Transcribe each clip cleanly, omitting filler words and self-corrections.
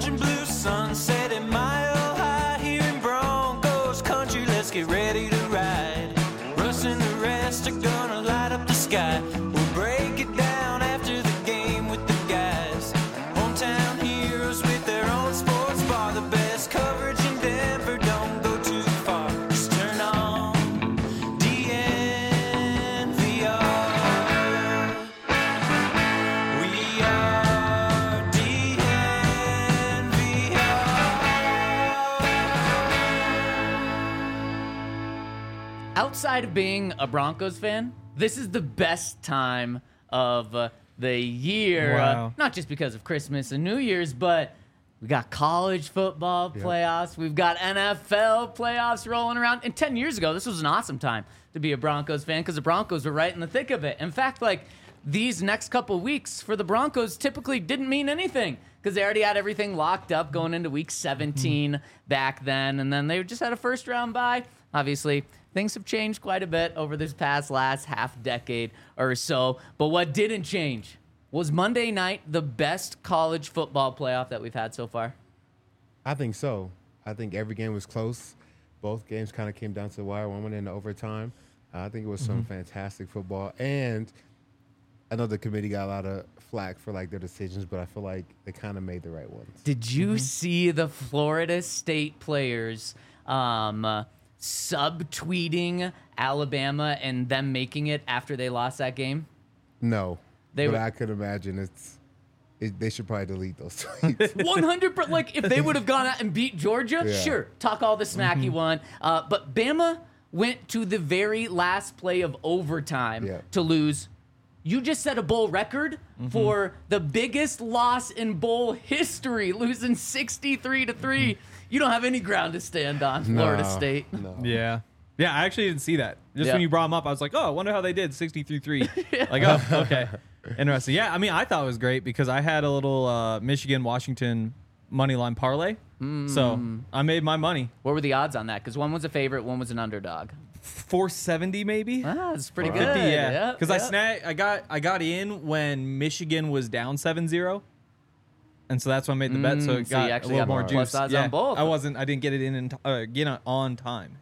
orange and blue sunset at Mile High here in Broncos country. Let's get ready to ride. Russ and the rest are gonna light up the sky. We'll break it down after the game with the guys. Hometown heroes with their own sports bar. The best coverage in Denver, don't go too far. Just turn on DNVR. We are DNVR. Outside of being a Broncos fan, this is the best time of the year. Wow. Not just because of Christmas and New Year's, but we got college football playoffs. We've got NFL playoffs rolling around. And 10 years ago, this was an awesome time to be a Broncos fan because the Broncos were right in the thick of it. In fact, like, these next couple weeks for the Broncos typically didn't mean anything because they already had everything locked up going into week 17 back then. And then they just had a first round bye. Obviously, things have changed quite a bit over this last half decade or so. But what didn't change was Monday night the best college football playoff that we've had so far. I think so. I think every game was close. Both games kind of came down to the wire. One went into overtime. I think it was some fantastic football. And I know the committee got a lot of flack for like their decisions, but I feel like they kind of made the right ones. Did you see the Florida State players subtweeting Alabama and them making it after they lost that game? No, They but were- I could imagine they should probably delete those tweets. 100%. Like, if they would have gone out and beat Georgia, Yeah. sure, talk all the smack you want. But Bama went to the very last play of overtime Yeah. to lose. You just set a bowl record for the biggest loss in bowl history, losing 63-3. You don't have any ground to stand on, Florida No, State. No. Yeah. Yeah, I actually didn't see that. Just Yeah. when you brought them up, I was like, oh, I wonder how they did 63-3. Like, oh, okay. Interesting. Yeah, I mean, I thought it was great because I had a little Michigan-Washington money line parlay. So I made my money. What were the odds on that? Because one was a favorite, one was an underdog. 470 maybe. Ah, it's pretty good. 50, yeah. Yep, Because yep. I got in when Michigan was down 7-0. And so that's when I made the bet. So it so you got a actually little got more plus juice. odds Yeah, on both. I didn't get it on time.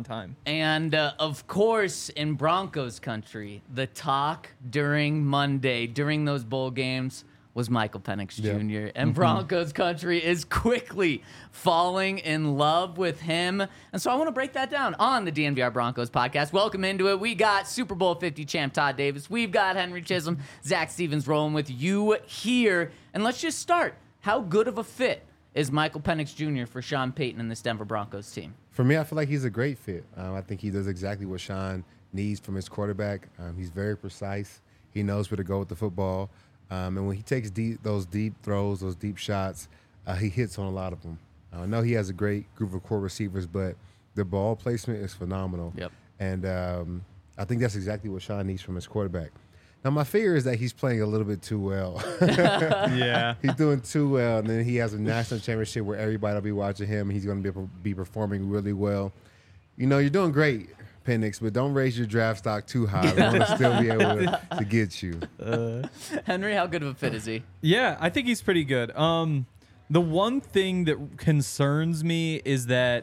And of course, in Broncos country, the talk during Monday, during those bowl games, was Michael Penix Yeah. Jr. And Broncos country is quickly falling in love with him. And so I want to break that down on the DNVR Broncos podcast. Welcome into it. We got Super Bowl 50 champ Todd Davis. We've got Henry Chisholm, Zach Stevens rolling with you here. And let's just start. How good of a fit is Michael Penix Jr. for Sean Payton and this Denver Broncos team? For me, I feel like he's a great fit. I think he does exactly what Sean needs from his quarterback. He's very precise. He knows where to go with the football. And when he takes those deep throws, those deep shots, he hits on a lot of them. I know he has a great group of core receivers, but the ball placement is phenomenal. Yep. And I think that's exactly what Sean needs from his quarterback. Now, my fear is that he's playing a little bit too well. Yeah. He's doing too well, and then he has a national championship where everybody will be watching him, and he's going to be performing really well. You know, you're doing great, Penix, but don't raise your draft stock too high. We want to still be able to get you. Henry, how good of a fit is he? Yeah, I think he's pretty good. The one thing that concerns me is that,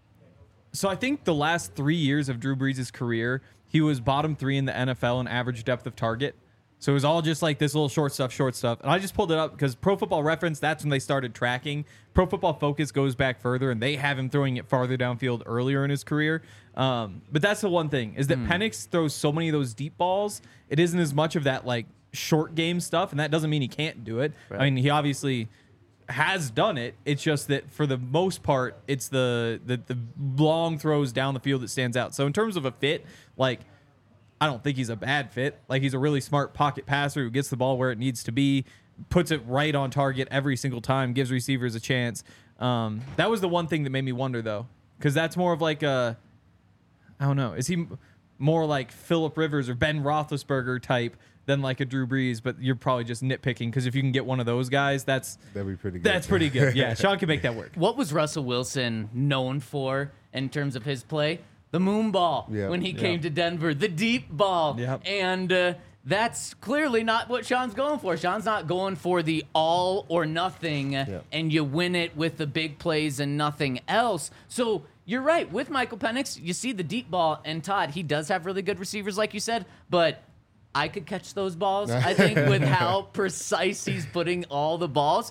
so I think the last 3 years of Drew Brees' career, he was bottom 3 in the NFL in average depth of target. So it was all just like this little short stuff. And I just pulled it up because Pro Football Reference, that's when they started tracking. Pro Football Focus goes back further, and they have him throwing it farther downfield earlier in his career. But that's the one thing, is that Penix throws so many of those deep balls. It isn't as much of that like short game stuff, and that doesn't mean he can't do it. Right. I mean, he obviously has done it. It's just that for the most part, it's the long throws down the field that stands out. So in terms of a fit, like, I don't think he's a bad fit. Like, he's a really smart pocket passer who gets the ball where it needs to be, puts it right on target every single time, gives receivers a chance. That was the one thing that made me wonder, though, because that's more of like a, I don't know, is he more like Phillip Rivers or Ben Roethlisberger type than like a Drew Brees? But you're probably just nitpicking, because if you can get one of those guys, that'd be pretty good. That's pretty good. Yeah, Sean can make that work. What was Russell Wilson known for in terms of his play? The moon ball Yep. when he came to Denver, the deep ball. Yep. And that's clearly not what Sean's going for. Sean's not going for the all or nothing, and you win it with the big plays and nothing else. So you're right. With Michael Penix, you see the deep ball, and Todd, he does have really good receivers, like you said, but I could catch those balls, I think, with how precise he's putting all the balls.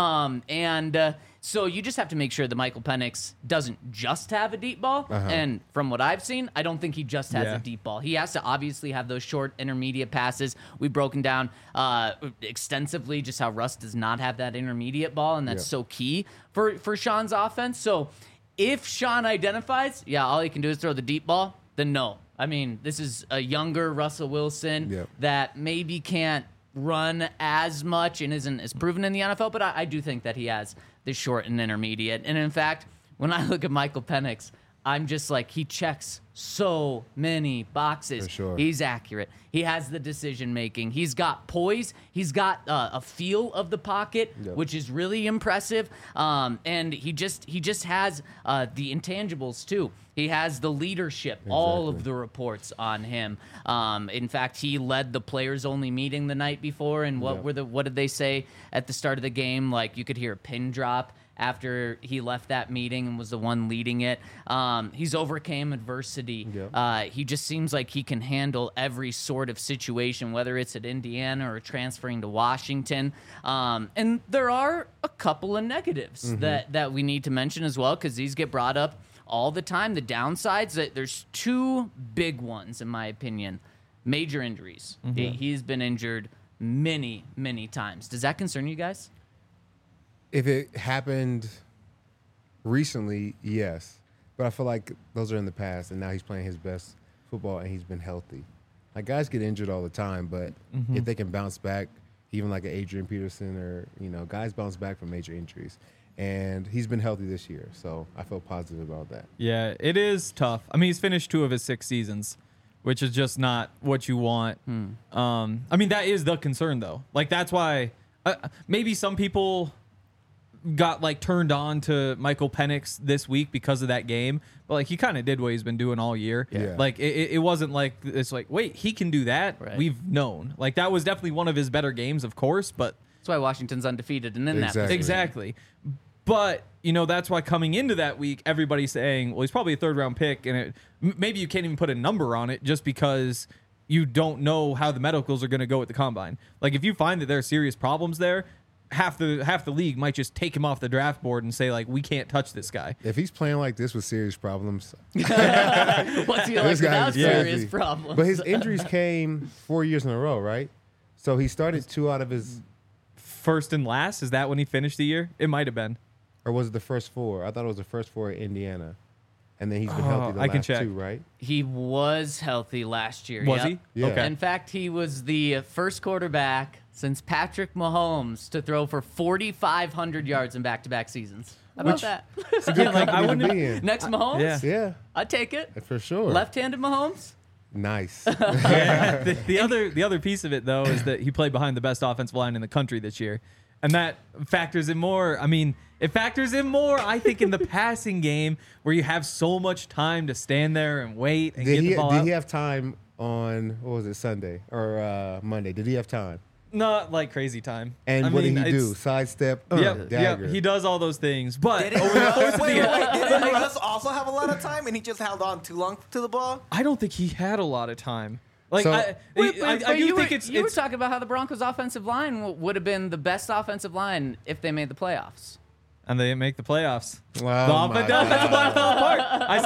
So you just have to make sure that Michael Penix doesn't just have a deep ball. And from what I've seen, I don't think he just has a deep ball. He has to obviously have those short intermediate passes. We've broken down extensively just how Russ does not have that intermediate ball, and that's so key for Sean's offense. So if Sean identifies, all he can do is throw the deep ball, then no. I mean, this is a younger Russell Wilson that maybe can't run as much and isn't as proven in the NFL, but I do think that he has the short and intermediate. And in fact, when I look at Michael Penix, I'm just like, he checks so many boxes. For sure. He's accurate. He has the decision making. He's got poise. He's got a feel of the pocket, which is really impressive. And he just has the intangibles too. He has the leadership. All of the reports on him. In fact, he led the players only meeting the night before. And what did they say at the start of the game? Like, you could hear a pin drop after he left that meeting and was the one leading it. He's overcame adversity. He just seems like he can handle every sort of situation, whether it's at Indiana or transferring to Washington. And there are a couple of negatives that we need to mention as well, because these get brought up all the time. The downsides, there's two big ones, in my opinion. Major injuries. He's been injured many, many times. Does that concern you guys? If it happened recently, yes. But I feel like those are in the past, and now he's playing his best football, and he's been healthy. Like, guys get injured all the time, but if they can bounce back, even like an Adrian Peterson or, guys bounce back from major injuries. And he's been healthy this year, so I feel positive about that. Yeah, it is tough. I mean, he's finished 2 of his 6 seasons, which is just not what you want. I mean, that is the concern, though. Like, that's why maybe some people got like turned on to Michael Penix this week because of that game, but like, he kind of did what he's been doing all year. Like, it wasn't like it's like, wait, he can do that. We've known, like, that was definitely one of his better games, of course, but that's why Washington's undefeated and in that position. Exactly. But that's why coming into that week, everybody's saying, well, he's probably a 3rd-round pick, and maybe you can't even put a number on it just because you don't know how the medicals are going to go at the combine. Like, if you find that there are serious problems there, half the league might just take him off the draft board and say, like, we can't touch this guy. If he's playing like this with serious problems, what's he like without serious problems? But his injuries came 4 years in a row, right? So he started 2 out of his first and last. Is that when he finished the year? It might have been. Or was it the first 4? I thought it was the first 4 at Indiana. And then he's been healthy the last 2, right? He was healthy last year. Was he? Yeah. Okay. In fact, he was the first quarterback since Patrick Mahomes to throw for 4,500 yards in back-to-back seasons. How about that? It's a good company to be in. Next Mahomes? Yeah, I'd take it. for sure. Left-handed Mahomes? Nice. The other piece of it, though, is that he played behind the best offensive line in the country this year. And that factors in more. I mean, it factors in more, I think, in the passing game where you have so much time to stand there and wait and get the ball Did out. he have time on, what was it, Sunday or Monday? Did he have time? Not like crazy time. And what did he do? Sidestep, dagger. He does all those things. But Didn't Russ also have a lot of time and he just held on too long to the ball? I don't think he had a lot of time. Like, So- I do think it's You were talking about how the Broncos' offensive line would have been the best offensive line if they made the playoffs. and they didn't make the playoffs. Wow, The offensive line fell apart.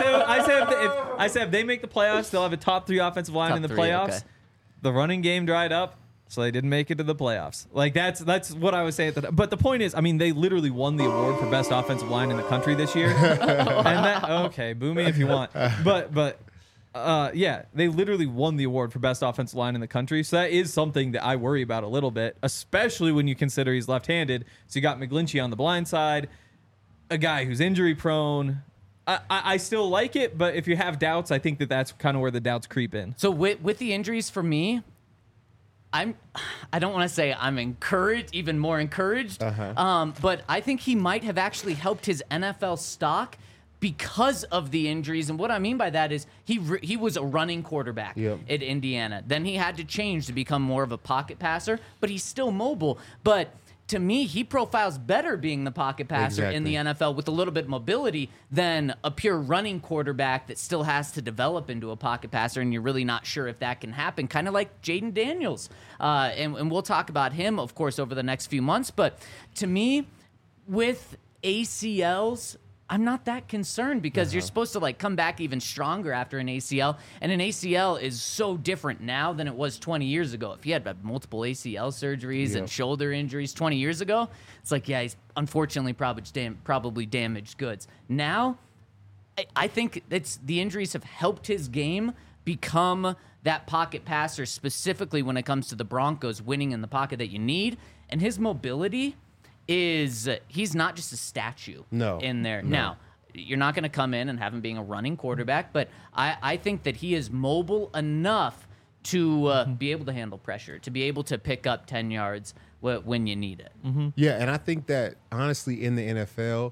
I say if they make the playoffs, they'll have a top 3 offensive line Top in the 3, playoffs. okay. The running game dried up, so they didn't make it to the playoffs. Like, that's what I was saying at the time. But the point is, I mean, they literally won the award for best offensive line in the country this year. Okay, boo me if you want. But yeah, they literally won the award for best offensive line in the country. So that is something that I worry about a little bit, especially when you consider he's left-handed. So you got McGlinchey on the blind side, a guy who's injury prone. I still like it, but if you have doubts, I think that's kind of where the doubts creep in. So with the injuries for me, I don't want to say I'm encouraged, even more encouraged, but I think he might have actually helped his NFL stock because of the injuries. And what I mean by that is he was a running quarterback Yep. at Indiana. Then he had to change to become more of a pocket passer, but he's still mobile. But to me, he profiles better being the pocket passer in the NFL with a little bit of mobility than a pure running quarterback that still has to develop into a pocket passer, and you're really not sure if that can happen, kind of like Jaden Daniels. And we'll talk about him, of course, over the next few months. But to me, with ACLs, I'm not that concerned because you're supposed to like come back even stronger after an ACL, and an ACL is so different now than it was 20 years ago. If you had multiple ACL surgeries and shoulder injuries 20 years ago, it's like, yeah, he's unfortunately probably damaged goods. Now, I think the injuries have helped his game become that pocket passer, specifically when it comes to the Broncos winning in the pocket that you need, and his mobility he's not just a statue in there. No. Now, you're not going to come in and have him being a running quarterback, but I think that he is mobile enough to be able to handle pressure, to be able to pick up 10 yards when you need it. Yeah, and I think that honestly in the NFL,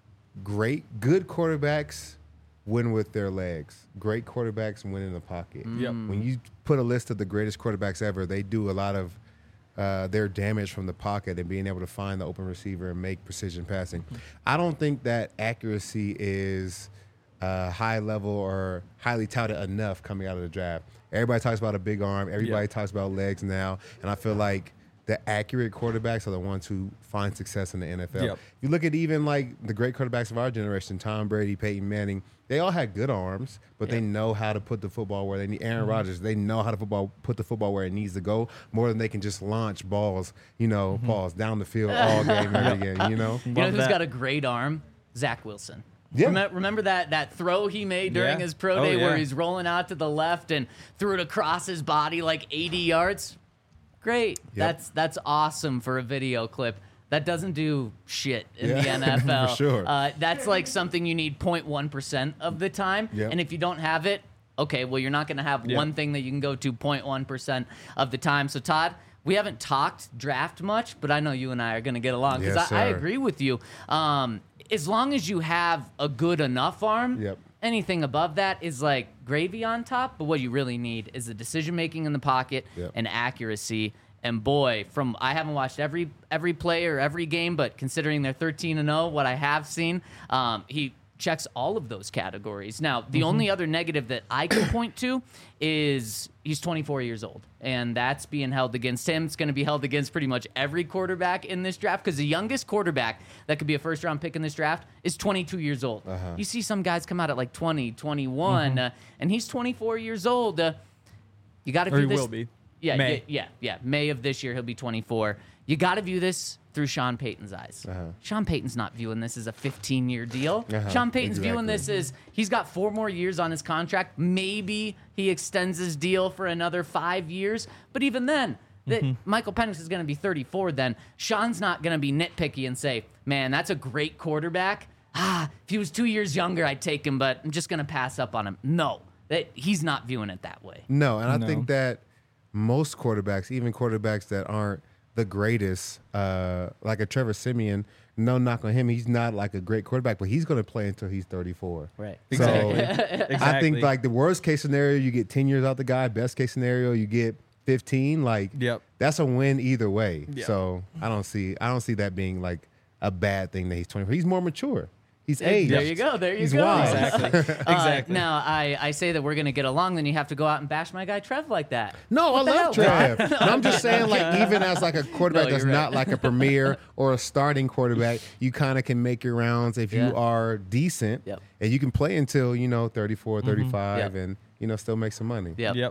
good quarterbacks win with their legs. Great quarterbacks win in the pocket. Yep. When you put a list of the greatest quarterbacks ever, they do a lot of their damage from the pocket and being able to find the open receiver and make precision passing. I don't think that accuracy is high level or highly touted enough coming out of the draft. Everybody talks about a big arm. Everybody talks about legs now. And I feel like the accurate quarterbacks are the ones who find success in the NFL. Yep. You look at even like the great quarterbacks of our generation, Tom Brady, Peyton Manning, they all had good arms, but they know how to put the football where they need. Aaron Rodgers, they know how to put the football where it needs to go more than they can just launch balls, balls down the field all game, every game, You know who's got a great arm? Zach Wilson. Yeah. Remember that throw he made during his pro day where he's rolling out to the left and threw it across his body like 80 yards? Great. Yep. That's awesome for a video clip. That doesn't do shit in the NFL. For sure. That's like something you need 0.1% of the time. Yep. And if you don't have it, okay, well, you're not going to have one thing that you can go to 0.1% of the time. So, Todd, we haven't talked draft much, but I know you and I are going to get along because Yes, I sir. agree with you. As long as you have a good enough arm, anything above that is like gravy on top. But what you really need is the decision-making in the pocket and accuracy. And boy, I haven't watched every play or every game, but considering they're 13-0, what I have seen, he checks all of those categories. Now, the only other negative that I can point to is he's 24 years old, and that's being held against him. It's going to be held against pretty much every quarterback in this draft because the youngest quarterback that could be a first-round pick in this draft is 22 years old. You see some guys come out at like 20, 21, and he's 24 years old. You got to Or view he this. will be. Yeah, May. yeah. May of this year, he'll be 24. You got to view this through Sean Payton's eyes. Sean Payton's not viewing this as a 15-year deal. Sean Payton's viewing this as he's got 4 more years on his contract. Maybe he extends his deal for another 5 years. But even then, Michael Penix is going to be 34 then. Sean's not going to be nitpicky and say, man, that's a great quarterback. If he was 2 years younger, I'd take him, but I'm just going to pass up on him. No, he's not viewing it that way. No, and I think that most quarterbacks, even quarterbacks that aren't the greatest, like a Trevor Siemian, no knock on him. He's not like a great quarterback, but he's going to play until he's 34. Right. So Exactly. I think like the worst case scenario, you get 10 years out the guy. Best case scenario, you get 15. Like that's a win either way. Yep. So I don't see that being like a bad thing that he's 24. He's more mature. He's aged. There you go. He's wise. Exactly. Now, I say that we're going to get along, then you have to go out and bash my guy Trev like that. No, I the love hell? Trev. No, I'm just saying, like, even as like a quarterback No, that's you're right. not like a premier or a starting quarterback, you kind of can make your rounds if you are decent, Yep. and you can play until 34, 35, Yep. and still make some money. Yep.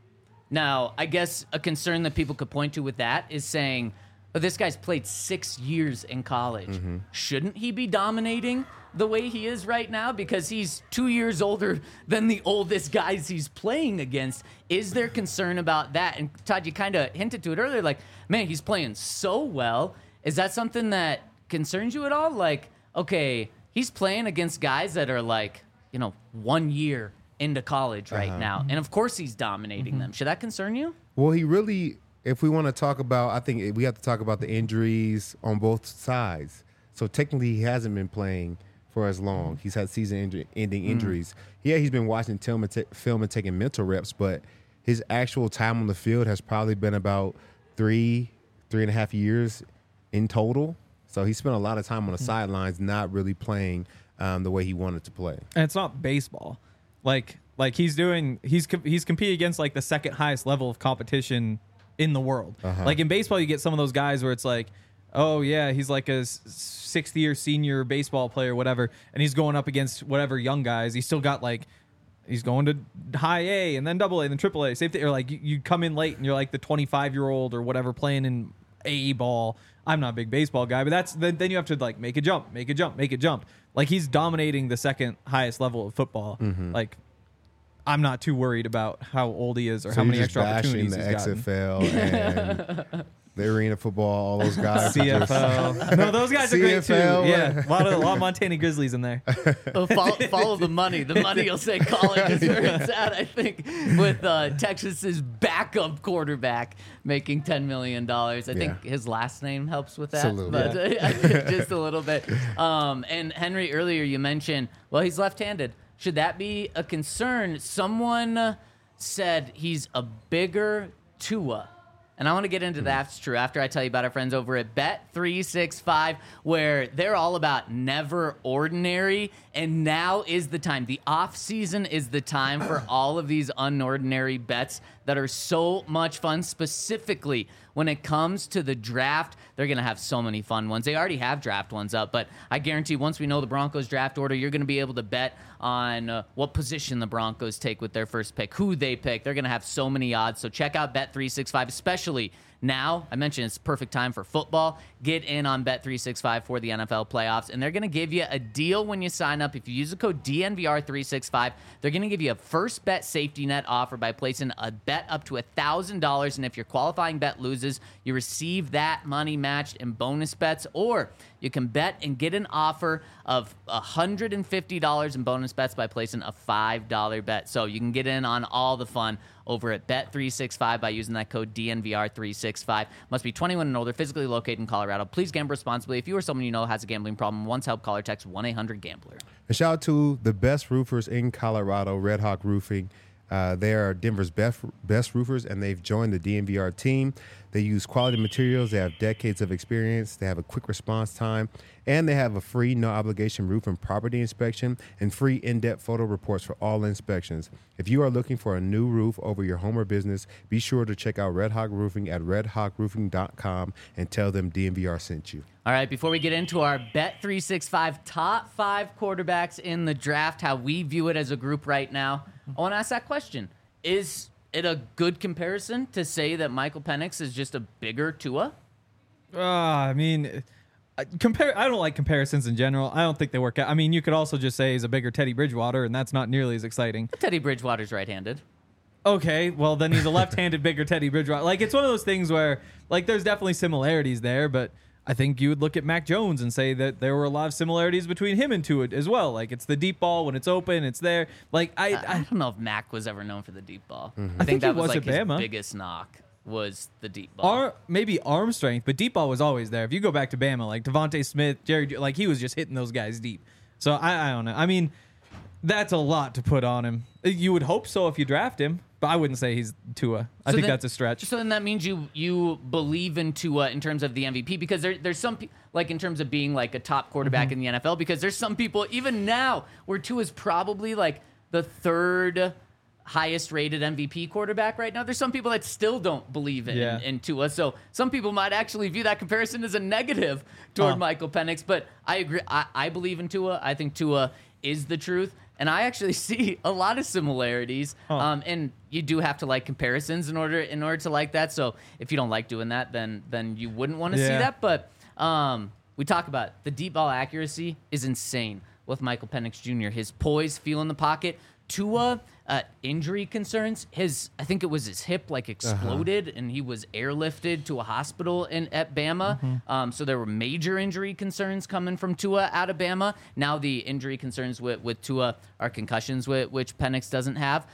Now, I guess a concern that people could point to with that is saying, oh, this guy's played 6 years in college. Shouldn't he be dominating the way he is right now because he's 2 years older than the oldest guys he's playing against? Is there concern about that? And Todd, you kind of hinted to it earlier, like, man, he's playing so well. Is that something that concerns you at all? Like, okay, he's playing against guys that are like, 1 year into college right now. And of course he's dominating them. Should that concern you? Well, he really, if we want to talk about, I think we have to talk about the injuries on both sides. So technically he hasn't been playing for as long. He's had season-ending injuries. Yeah, he's been watching film and taking mental reps, but his actual time on the field has probably been about 3.5 years in total. So he spent a lot of time on the sidelines, not really playing the way he wanted to play. And it's not baseball. Like he's competing against like the second highest level of competition in the world. Like in baseball, you get some of those guys where it's like, oh yeah, he's like a 6th-year senior baseball player, whatever, and he's going up against whatever young guys. He's still got like, he's going to high A and then double A and then triple A. Same thing. Or like you come in late and you're like the 25-year-old or whatever playing in AE ball. I'm not a big baseball guy, but then you have to like make a jump. Like he's dominating the second highest level of football. Like I'm not too worried about how old he is or how many extra opportunities he's gotten. The XFL and the arena football, all those guys. CFL. No, those guys are great too. CFL. Yeah, a lot of Montana Grizzlies in there. Follow the money. The money will say college is where it's at, I think, with Texas's backup quarterback making $10 million. I think his last name helps with that. Just a little bit. And Henry, earlier you mentioned, well, he's left-handed. Should that be a concern? Someone said he's a bigger Tua. And I want to get into that's true after I tell you about our friends over at Bet365, where they're all about never ordinary. And now is the time. The off season is the time for all of these unordinary bets that are so much fun. Specifically, when it comes to the draft, they're going to have so many fun ones. They already have draft ones up, but I guarantee once we know the Broncos draft order, you're going to be able to bet on what position the Broncos take with their first pick, who they pick. They're going to have so many odds. So check out Bet365, especially now. I mentioned it's perfect time for football. Get in on Bet365 for the NFL playoffs, and they're going to give you a deal when you sign up. If you use the code DNVR365, they're going to give you a first bet safety net offer by placing a bet up to $1,000, and if your qualifying bet loses, you receive that money matched in bonus bets, or you can bet and get an offer of $150 in bonus bets by placing a $5 bet. So you can get in on all the fun over at Bet365 by using that code DNVR365. Must be 21 and older, physically located in Colorado. Please gamble responsibly. If you or someone you know has a gambling problem, once help, call or text 1-800-GAMBLER. And shout out to the best roofers in Colorado, Red Hawk Roofing. They are Denver's best roofers, and they've joined the DNVR team. They use quality materials. They have decades of experience. They have a quick response time, and they have a free, no-obligation roof and property inspection and free in-depth photo reports for all inspections. If you are looking for a new roof over your home or business, be sure to check out Red Hawk Roofing at redhawkroofing.com and tell them DNVR sent you. All right, before we get into our Bet365 top 5 quarterbacks in the draft, how we view it as a group right now, I want to ask that question. Is it a good comparison to say that Michael Penix is just a bigger Tua? I mean, I don't like comparisons in general. I don't think they work out. I mean, you could also just say he's a bigger Teddy Bridgewater, and that's not nearly as exciting. Teddy Bridgewater's right-handed. Okay, well, then he's a left-handed bigger Teddy Bridgewater. Like, it's one of those things where, like, there's definitely similarities there, but I think you would look at Mac Jones and say that there were a lot of similarities between him and Tua as well. Like, it's the deep ball when it's open, it's there. Like, I don't know if Mac was ever known for the deep ball. I I think that he was was like at his Bama. biggest knock was the deep ball. maybe arm strength, but deep ball was always there. If you go back to Bama, like Devontae Smith, Jerry, like he was just hitting those guys deep. So I don't know. I mean, that's a lot to put on him. You would hope so if you draft him, but I wouldn't say he's Tua. I think that's a stretch. So then that means you believe in Tua in terms of the MVP, because there's some like in terms of being like a top quarterback in the NFL, because there's some people even now where Tua's probably like the third highest rated MVP quarterback right now. There's some people that still don't believe in Tua. So some people might actually view that comparison as a negative toward Michael Penix, but I agree. I believe in Tua. I think Tua is the truth. And I actually see a lot of similarities, and you do have to like comparisons in order to like that. So if you don't like doing that, then you wouldn't want to see that. But we talk about the deep ball accuracy is insane with Michael Penix Jr. His poise, feel in the pocket. Tua, injury concerns. I think it was his hip like exploded, and he was airlifted to a hospital at Bama. So there were major injury concerns coming from Tua out of Bama. Now the injury concerns with Tua are concussions, which Penix doesn't have.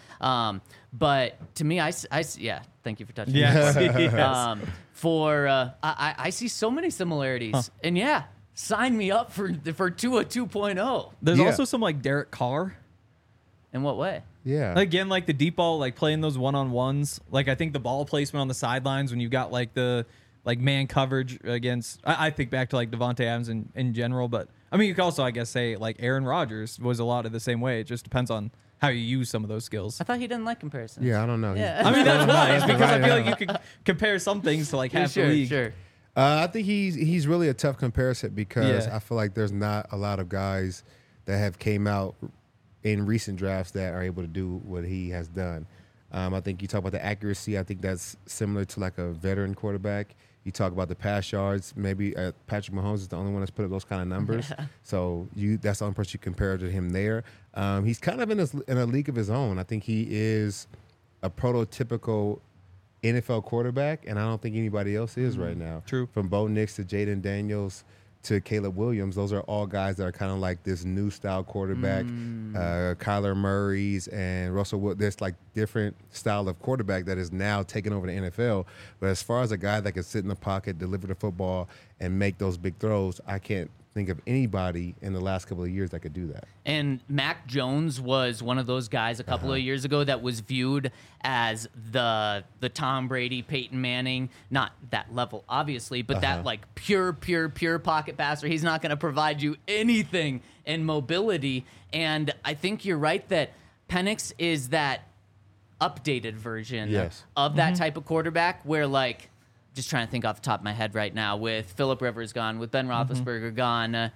But to me, I thank you for touching. Yes. I see so many similarities, and sign me up for Tua 2.0. There's Yeah. also some like Derek Carr. In what way? Yeah. Again, like the deep ball, like playing those one-on-ones. Like I think the ball placement on the sidelines when you got like the like man coverage against. I think back to like Devontae Adams in general, but I mean you could also I guess say like Aaron Rodgers was a lot of the same way. It just depends on how you use some of those skills. I thought he didn't like comparisons. Yeah, I don't know. Yeah. I mean that's why. It's because I Right feel now. like you could compare some things to like half sure, the league. sure. I think he's really a tough comparison because Yeah. I feel like there's not a lot of guys that have came out in recent drafts that are able to do what he has done. I think you talk about the accuracy. I think that's similar to like a veteran quarterback. You talk about the pass yards. Maybe Patrick Mahomes is the only one that's put up those kind of numbers. So that's the only person you compare to him there. He's kind of in a league of his own. I think he is a prototypical NFL quarterback, and I don't think anybody else is right now. True. From Bo Nix to Jaden Daniels to Caleb Williams, those are all guys that are kind of like this new style quarterback. Kyler Murray's and Russell Wood. There's like different style of quarterback that is now taking over the NFL. But as far as a guy that can sit in the pocket, deliver the football, and make those big throws, I can't think of anybody in the last couple of years that could do that. And Mac Jones was one of those guys a couple of years ago that was viewed as the Tom Brady, Peyton Manning, not that level, obviously, but that like pure pocket passer. He's not going to provide you anything in mobility. And I think you're right that Penix is that updated version Yes. of that type of quarterback where like, just trying to think off the top of my head right now, with Phillip Rivers gone, with Ben Roethlisberger gone,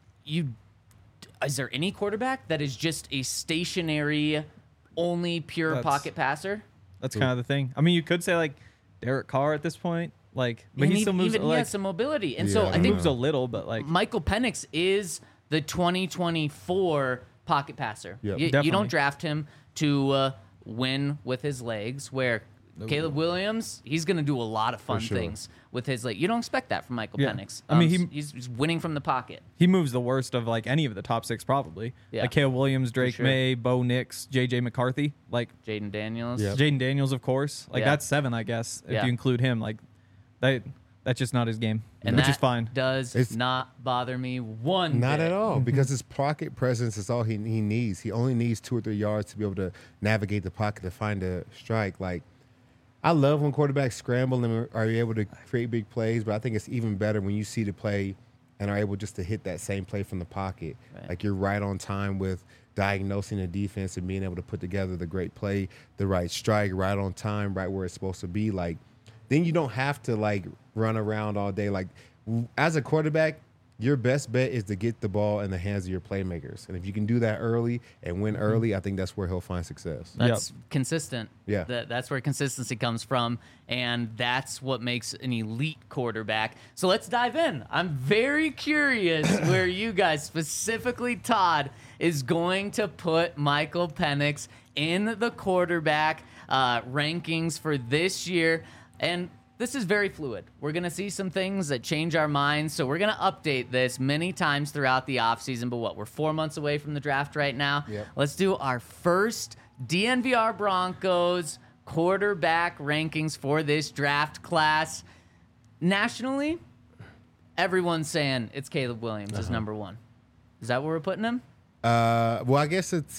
is there any quarterback that is just a stationary, only pure That's- pocket passer? That's kind of the thing. I mean, you could say like Derek Carr at this point, like, but he still moves even he like has some mobility, and so Yeah. I he think moves a little, but like Michael Penix is the 2024 pocket passer. Yep. You Definitely. don't draft him to win with his legs, where Caleb Williams, he's going to do a lot of fun sure. things with his leg. You don't expect that from Michael Yeah. Penix. I mean, he's winning from the pocket. he moves the worst of like any of the top six probably. Yeah. Like Caleb Williams, Drake sure. May, Bo Nix, JJ McCarthy, like Jaden Daniels. Yep. Jaden Daniels, of course. Like Yeah. that's 7, I guess, if Yeah. you include him. Like that's just not his game, And which that is fine. does It's- not bother me one Not bit. at all, because his pocket presence is all he needs. He only needs 2 or 3 yards to be able to navigate the pocket to find a strike. Like, I love when quarterbacks scramble and are able to create big plays, but I think it's even better when you see the play and are able just to hit that same play from the pocket. Right. Like, you're right on time with diagnosing the defense and being able to put together the great play, the right strike, right on time, right where it's supposed to be. Like, then you don't have to like run around all day. Like, as a quarterback, your best bet is to get the ball in the hands of your playmakers. And if you can do that early and win early, I think that's where he'll find success. That's consistent. Yeah. That's where consistency comes from, and that's what makes an elite quarterback. So let's dive in. I'm very curious where you guys, specifically Todd, is going to put Michael Penix in the quarterback rankings for this year. And this is very fluid. We're going to see some things that change our minds, so we're going to update this many times throughout the offseason. But we're 4 months away from the draft right now. Yep. Let's do our first DNVR Broncos quarterback rankings for this draft class. Nationally, everyone's saying it's Caleb Williams is number 1. Is that where we're putting him? Well, I guess it's,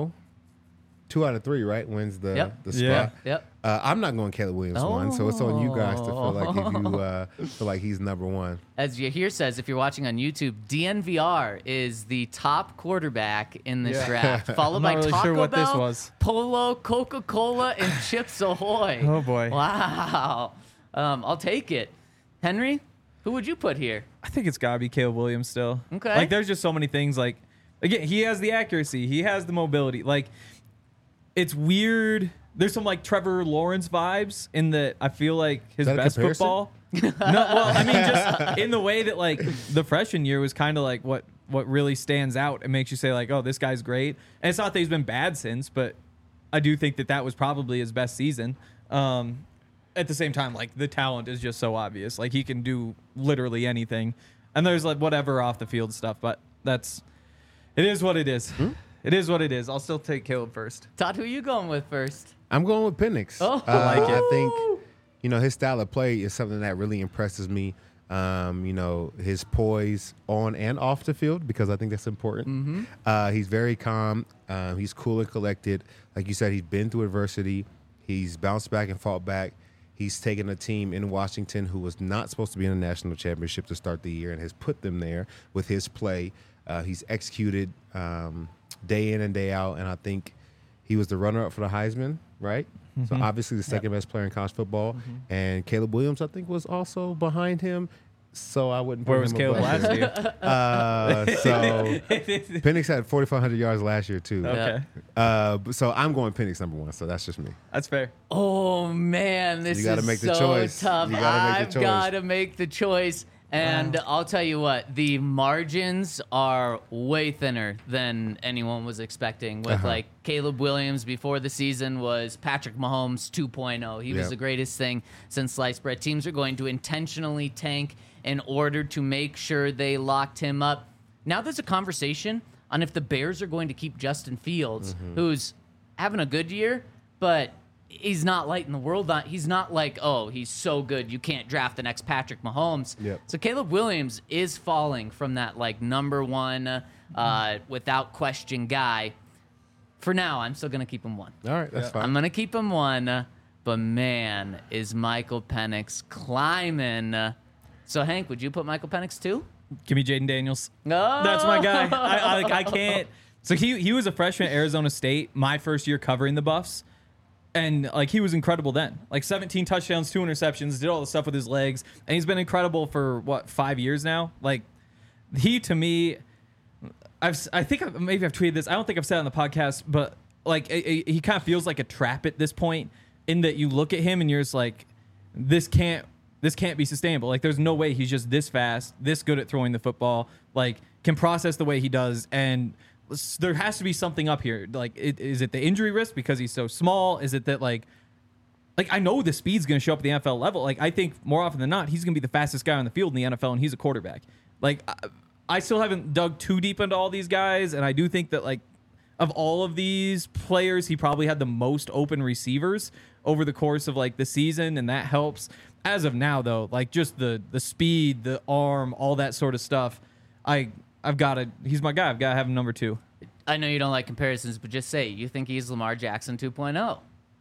2 out of 3, right? Wins the Yep. spot. Yeah. Yep. I'm not going Caleb Williams 1, so it's on you guys to feel like if you feel like he's number 1. As Yahir says, if you're watching on YouTube, DNVR is the top quarterback in this draft, followed I'm by not really Taco sure what this Bell, was. Polo, Coca-Cola, and Chips Ahoy. Oh, boy. Wow. I'll take it. Henry, who would you put here? I think it's gotta be Caleb Williams still. Okay. Like there's just so many things. Like again, he has the accuracy, he has the mobility. Like it's weird. There's some like Trevor Lawrence vibes in that I feel like his Is that a best comparison? football. No, well, I mean just in the way that like the freshman year was kind of like what really stands out and makes you say like, oh, this guy's great. And it's not that he's been bad since, but I do think that was probably his best season. At the same time, like the talent is just so obvious. Like he can do literally anything. And there's like whatever off the field stuff, but it is what it is. It is what it is. I'll still take Caleb first. Todd, who are you going with first? I'm going with Penix. Oh. I like it. I think, his style of play is something that really impresses me. You know, his poise on and off the field, because I think that's important. He's very calm. He's cool and collected. Like you said, he's been through adversity. He's bounced back and fought back. He's taken a team in Washington who was not supposed to be in a national championship to start the year and has put them there with his play. He's executed day in and day out, and I think he was the runner-up for the Heisman, right? So obviously the second best player in college football. And Caleb Williams, I think, was also behind him. So I wouldn't put Where him was Caleb above last him. year? So Penix had 4,500 yards last year too. Okay. So I'm going Penix number one. So that's just me. That's fair. Oh man, this You gotta is make the so choice. tough. You gotta make the I've choice. got to make the choice. And I'll tell you what, the margins are way thinner than anyone was expecting. With like Caleb Williams before the season was Patrick Mahomes 2.0. He was Yep. the greatest thing since sliced bread. Teams are going to intentionally tank in order to make sure they locked him up. Now there's a conversation on if the Bears are going to keep Justin Fields, who's having a good year, but he's not lighting the world on. He's not like, oh, he's so good you can't draft the next Patrick Mahomes. Yep. So Caleb Williams is falling from that like number one without question guy. For now, I'm still gonna keep him one. All right, that's fine. I'm gonna keep him one, but man, is Michael Penix climbing. So Hank, would you put Michael Penix two? Give me Jaden Daniels. No, That's my guy. I can't. So he was a freshman at Arizona State, my first year covering the Buffs. And, like, he was incredible then. Like, 17 touchdowns, 2 interceptions, did all the stuff with his legs. And he's been incredible for, 5 years now? Like, he, to me, I think maybe I've tweeted this. I don't think I've said it on the podcast, but, like, he kind of feels like a trap at this point in that you look at him and you're just like, this can't be sustainable. Like, there's no way he's just this fast, this good at throwing the football, like, can process the way he does, and there has to be something up here. Like, is it the injury risk because he's so small? Is it that, like I know the speed's going to show up at the NFL level. Like, I think more often than not, he's going to be the fastest guy on the field in the NFL, and he's a quarterback. Like, I still haven't dug too deep into all these guys, and I do think that, like, of all of these players, he probably had the most open receivers over the course of, like, the season, and that helps. As of now, though, like, just the speed, the arm, all that sort of stuff, I've got to. He's my guy. I've got to have him number 2. I know you don't like comparisons, but just say you think he's Lamar Jackson 2.0.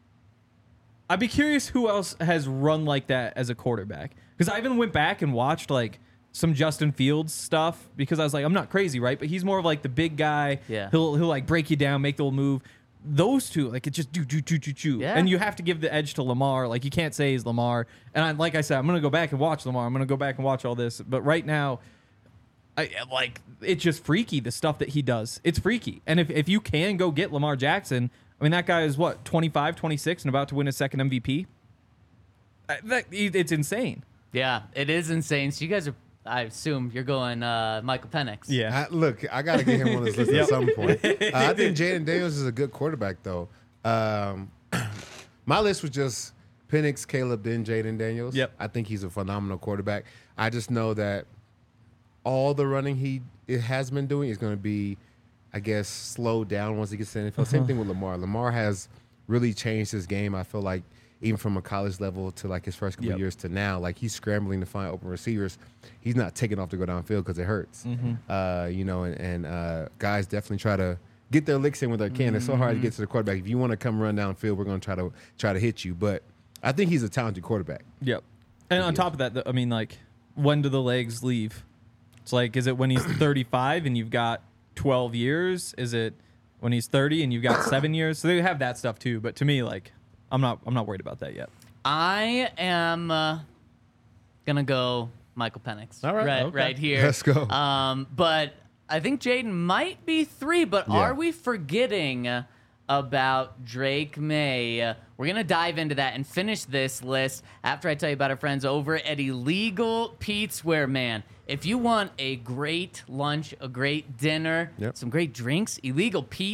I'd be curious who else has run like that as a quarterback, because I even went back and watched like some Justin Fields stuff because I was like, I'm not crazy, right? But he's more of like the big guy. Yeah. He'll like break you down, make the little move. Those two, like, it just do. Yeah. And you have to give the edge to Lamar. Like, you can't say he's Lamar. And like I said, I'm gonna go back and watch Lamar. I'm gonna go back and watch all this. But right now, it's just freaky, the stuff that he does. It's freaky. And if you can go get Lamar Jackson, I mean, that guy is what, 25, 26 and about to win his second MVP? It's insane. Yeah, it is insane. So you guys are, I assume you're going Michael Penix. Yeah. Look, I got to get him on this list at some point. I think Jaden Daniels is a good quarterback, though. My list was just Penix, Caleb, then Jaden Daniels. Yep. I think he's a phenomenal quarterback. I just know that all the running it has been doing is going to be, I guess, slowed down once he gets to the NFL. Same thing with Lamar. Lamar has really changed his game, I feel like, even from a college level to like his first couple of years to now. Like, he's scrambling to find open receivers. He's not taking off to go downfield because it hurts. You know, and guys definitely try to get their licks in when they can. It's so hard to get to the quarterback. If you want to come run downfield, we're going to try to hit you. But I think he's a talented quarterback. Yep. And on top of that, I mean, like, when do the legs leave? It's like, is it when he's 35 and you've got 12 years? Is it when he's 30 and you've got 7 years? So they have that stuff too. But to me, like, I'm not worried about that yet. I am gonna go Michael Penix. All right. Right here. Let's go. But I think Jaden might be 3. But Yeah. are we forgetting about Drake May? We're gonna dive into that and finish this list after I tell you about our friends over at Illegal Pete's, where, man, if you want a great lunch, a great dinner, Yep. some great drinks, Illegal Pete's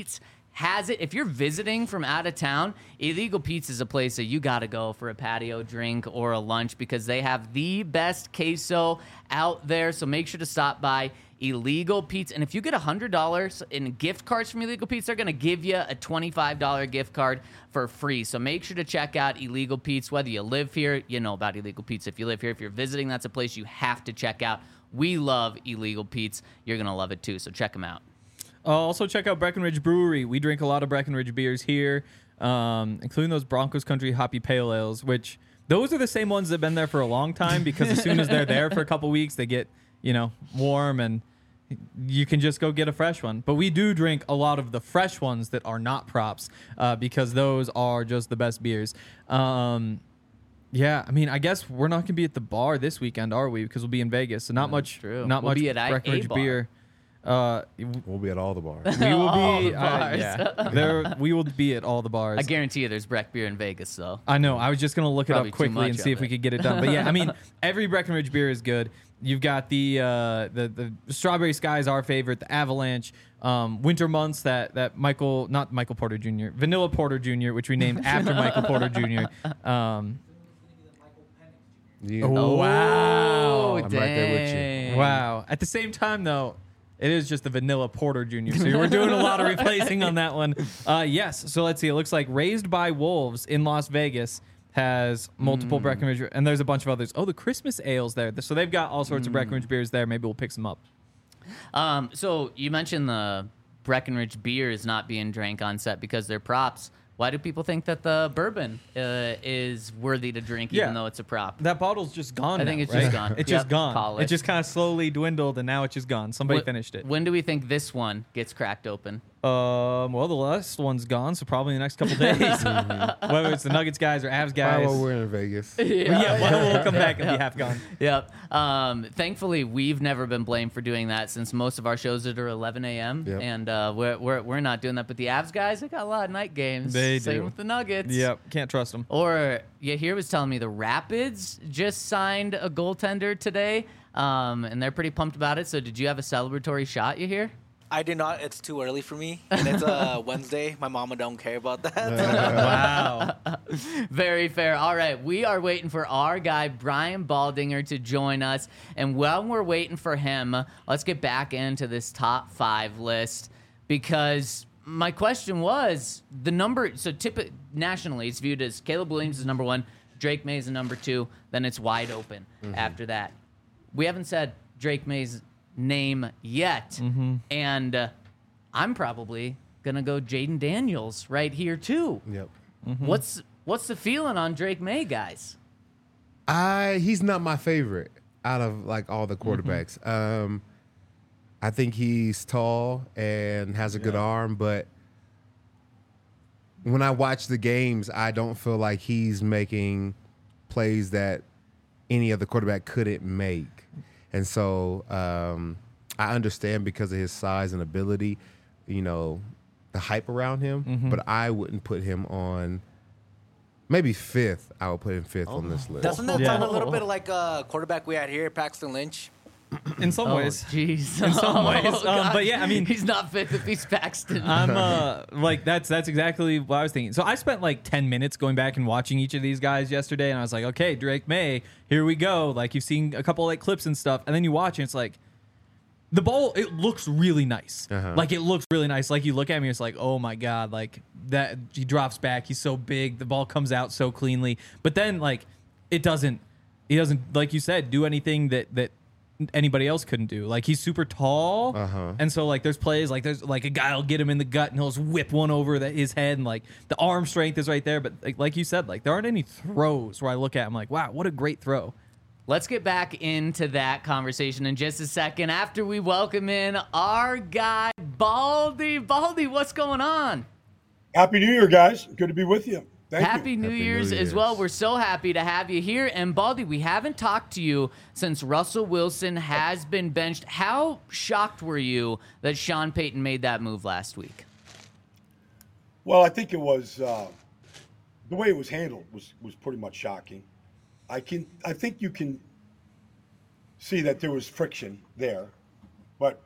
has it. If you're visiting from out of town, Illegal Pete's is a place that you got to go for a patio drink or a lunch because they have the best queso out there. So make sure to stop by Illegal Pete's. And if you get $100 in gift cards from Illegal Pete's, they're going to give you a $25 gift card for free. So make sure to check out Illegal Pete's. Whether you live here, you know about Illegal Pete's. If you live here, if you're visiting, that's a place you have to check out. We love Illegal Pete's. You're going to love it too. So check them out. Also, check out Breckenridge Brewery. We drink a lot of Breckenridge beers here, including those Broncos Country Hoppy Pale Ales, which those are the same ones that have been there for a long time because as soon as they're there for a couple weeks, they get, warm and you can just go get a fresh one. But we do drink a lot of the fresh ones that are not props because those are just the best beers. I guess we're not going to be at the bar this weekend, are we? Because we'll be in Vegas. So not much Be at Breckenridge a bar. beer. We'll be at all the bars. We will All be the bars. we will be at all the bars. I guarantee you there's Breck beer in Vegas, though. I know. I was just gonna look Probably it up too quickly and much see of if we it. could get it done. But yeah, I mean, every Breckenridge beer is good. You've got the Strawberry Sky is our favorite, the Avalanche, winter months that not Michael Porter Jr., Vanilla Porter Jr., which we named after Michael Porter Jr. Oh, Wow. I'm right there with you. Wow. At the same time, though, it is just the Vanilla Porter Jr. So we're doing a lot of replacing on that one. Yes. So let's see. It looks like Raised by Wolves in Las Vegas has multiple Breckenridge, and there's a bunch of others. Oh, the Christmas ales there. So they've got all sorts of Breckenridge beers there. Maybe we'll pick some up. So you mentioned the Breckenridge beer is not being drank on set because they're props. Why do people think that the bourbon is worthy to drink even though it's a prop? That bottle's just gone. I think it's right? just gone. It's just Yep, gone. polished. It just kind of slowly dwindled, and now it's just gone. Somebody finished it. When do we think this one gets cracked open? Well, the last one's gone, so probably in the next couple days. Whether it's the Nuggets guys or Avs guys. Well, we're in Vegas. We'll come back and be half gone. Yep. Thankfully, we've never been blamed for doing that since most of our shows are 11 a.m. Yep. And we're not doing that. But the Avs guys, they got a lot of night games. They Same do. with the Nuggets. Yep, can't trust them. Or here was telling me the Rapids just signed a goaltender today, and they're pretty pumped about it. So did you have a celebratory shot? You hear? I did not. It's too early for me, and it's Wednesday. My mama don't care about that. Wow. Very fair. All right, we are waiting for our guy Brian Baldinger to join us, and while we're waiting for him, let's get back into this top 5 list because my question was the number. So nationally, it's viewed as Caleb Williams is number 1, Drake May is number 2, then it's wide open after that. We haven't said Drake May's name yet, and I'm probably gonna go Jaden Daniels right here too. Yep. What's the feeling on Drake May, guys? He's not my favorite out of like all the quarterbacks. I think he's tall and has a good arm, but when I watch the games, I don't feel like he's making plays that any other quarterback couldn't make. And so I understand because of his size and ability, the hype around him, but I wouldn't put him on maybe 5th. I would put him 5th on this list. Doesn't that sound a little bit like a quarterback we had here, Paxton Lynch? In some ways. Jeez. In some ways. God. But yeah, I mean, he's not fit if he's Paxton. I'm like that's exactly what I was thinking. So I spent like 10 minutes going back and watching each of these guys yesterday, and I was like, okay, Drake May, here we go. Like you've seen a couple like clips and stuff, and then you watch and it's like the ball, it looks really nice. Like it looks really nice. Like you look at me, it's like, oh my God, like that he drops back, he's so big, the ball comes out so cleanly. But then like he doesn't, like you said, do anything that anybody else couldn't do. Like he's super tall, and so like there's plays like there's like a guy will get him in the gut and he'll just whip one over his head, and like the arm strength is right there. But like you said, like there aren't any throws where I look at him like, wow, what a great throw. Let's get back into that conversation in just a second after we welcome in our guy Baldy. Baldy, what's going on? Happy New Year, guys. Good to be with you. Thank Happy you. New Happy Year's New as Year's. well. We're so happy to have you here. And Baldy, we haven't talked to you since Russell Wilson has been benched. How shocked were you that Sean Payton made that move last week? Well, I think it was the way it was handled was pretty much shocking. I think you can see that there was friction there, but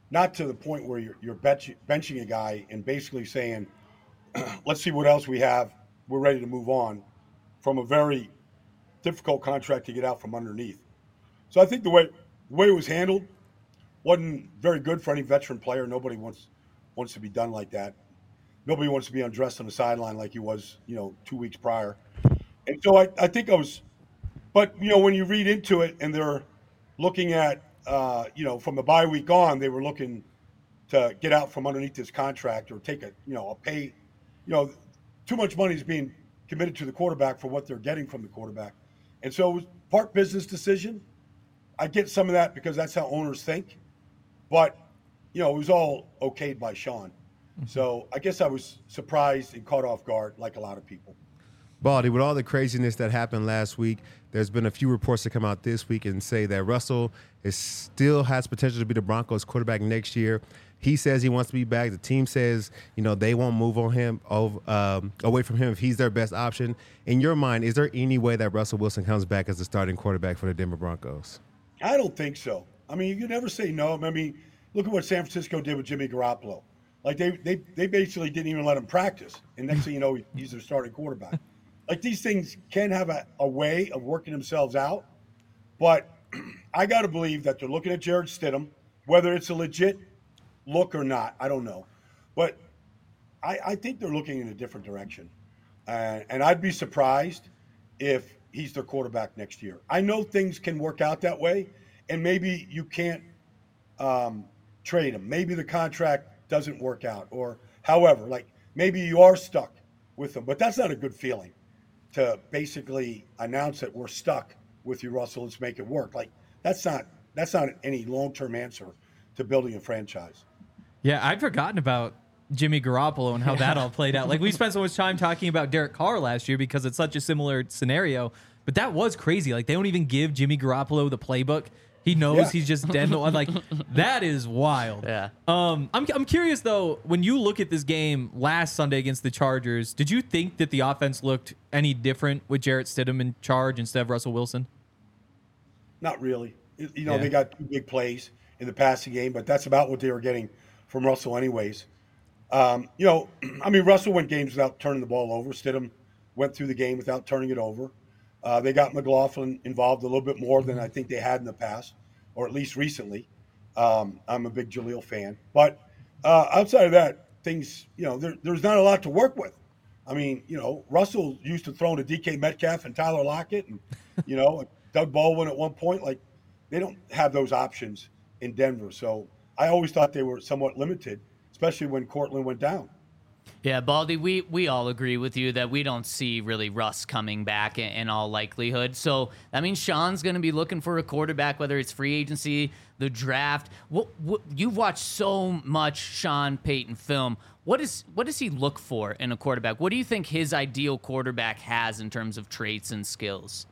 not to the point where you're benching a guy and basically saying, let's see what else we have. We're ready to move on from a very difficult contract to get out from underneath. So I think the way it was handled wasn't very good for any veteran player. Nobody wants to be done like that. Nobody wants to be undressed on the sideline like he was, 2 weeks prior. And so I think I was, but when you read into it and they're looking at, from the bye week on, they were looking to get out from underneath this contract or take a pay, too much money is being committed to the quarterback for what they're getting from the quarterback. And so it was part business decision. I get some of that because that's how owners think. But, it was all okayed by Sean. So I guess I was surprised and caught off guard like a lot of people. Baldy, with all the craziness that happened last week, there's been a few reports that come out this week and say that Russell still has potential to be the Broncos quarterback next year. He says he wants to be back. The team says, they won't move on him away from him if he's their best option. In your mind, is there any way that Russell Wilson comes back as the starting quarterback for the Denver Broncos? I don't think so. I mean, you can never say no. I mean, look at what San Francisco did with Jimmy Garoppolo. Like they basically didn't even let him practice, and next thing you know, he's their starting quarterback. Like these things can have a way of working themselves out, but I got to believe that they're looking at Jared Stidham, whether it's a legit look or not, I don't know, but I think they're looking in a different direction, and I'd be surprised if he's their quarterback next year. I know things can work out that way, and maybe you can't trade him. Maybe the contract doesn't work out, or however, like maybe you are stuck with him, but that's not a good feeling to basically announce that we're stuck with you, Russell. Let's make it work. Like that's not any long-term answer to building a franchise. Yeah, I'd forgotten about Jimmy Garoppolo and how that all played out. Like we spent so much time talking about Derek Carr last year because it's such a similar scenario, but that was crazy. Like they don't even give Jimmy Garoppolo the playbook. He knows he's just dead. Like that is wild. Yeah. I'm curious though. When you look at this game last Sunday against the Chargers, did you think that the offense looked any different with Jarrett Stidham in charge instead of Russell Wilson? Not really. They got 2 big plays in the passing game, but that's about what they were getting from Russell anyways. Russell went games without turning the ball over. Stidham went through the game without turning it over. They got McLaughlin involved a little bit more than I think they had in the past, or at least recently. I'm a big Jaleel fan. But outside of that, things, there's not a lot to work with. I mean, Russell used to throw to DK Metcalf and Tyler Lockett and, Doug Baldwin at one point. Like, they don't have those options in Denver. So I always thought they were somewhat limited, especially when Cortland went down. Yeah, Baldy, we all agree with you that we don't see really Russ coming back in all likelihood. So that means Sean's going to be looking for a quarterback, whether it's free agency, the draft. You've watched so much Sean Payton film. What does he look for in a quarterback? What do you think his ideal quarterback has in terms of traits and skills?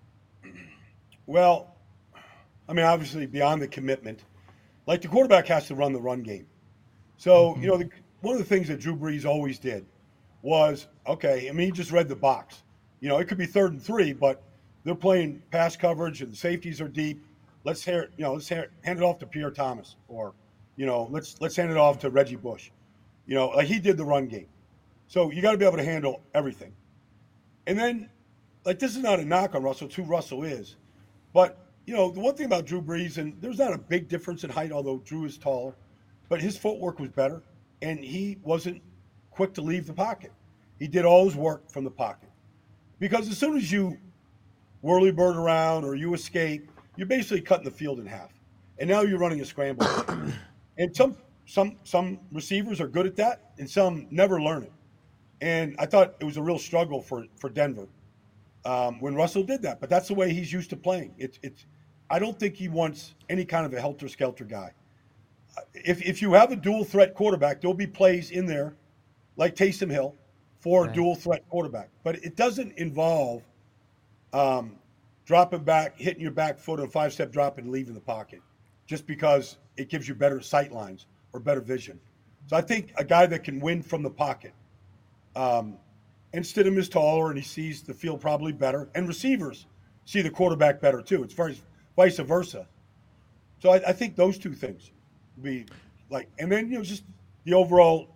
Well, obviously beyond the commitment, like the quarterback has to run the run game. So, one of the things that Drew Brees always did was, he just read the box. It could be 3rd and 3, but they're playing pass coverage and the safeties are deep. Let's hand it off to Pierre Thomas, or, let's hand it off to Reggie Bush. Like he did the run game. So you got to be able to handle everything. And then, like, this is not a knock on Russell. It's who Russell is. But, the one thing about Drew Brees, and there's not a big difference in height, although Drew is taller, but his footwork was better. And he wasn't quick to leave the pocket. He did all his work from the pocket. Because as soon as you whirly bird around or you escape, you're basically cutting the field in half. And now you're running a scramble. And some receivers are good at that, and some never learn it. And I thought it was a real struggle for Denver when Russell did that. But that's the way he's used to playing. I don't think he wants any kind of a helter-skelter guy. If you have a dual threat quarterback, there'll be plays in there like Taysom Hill for a dual threat quarterback. But it doesn't involve dropping back, hitting your back foot on a 5-step drop and leaving the pocket just because it gives you better sight lines or better vision. So I think a guy that can win from the pocket. And Stidham is taller and he sees the field probably better. And receivers see the quarterback better too. It's vice versa. So I think those two things be Like, and then just the overall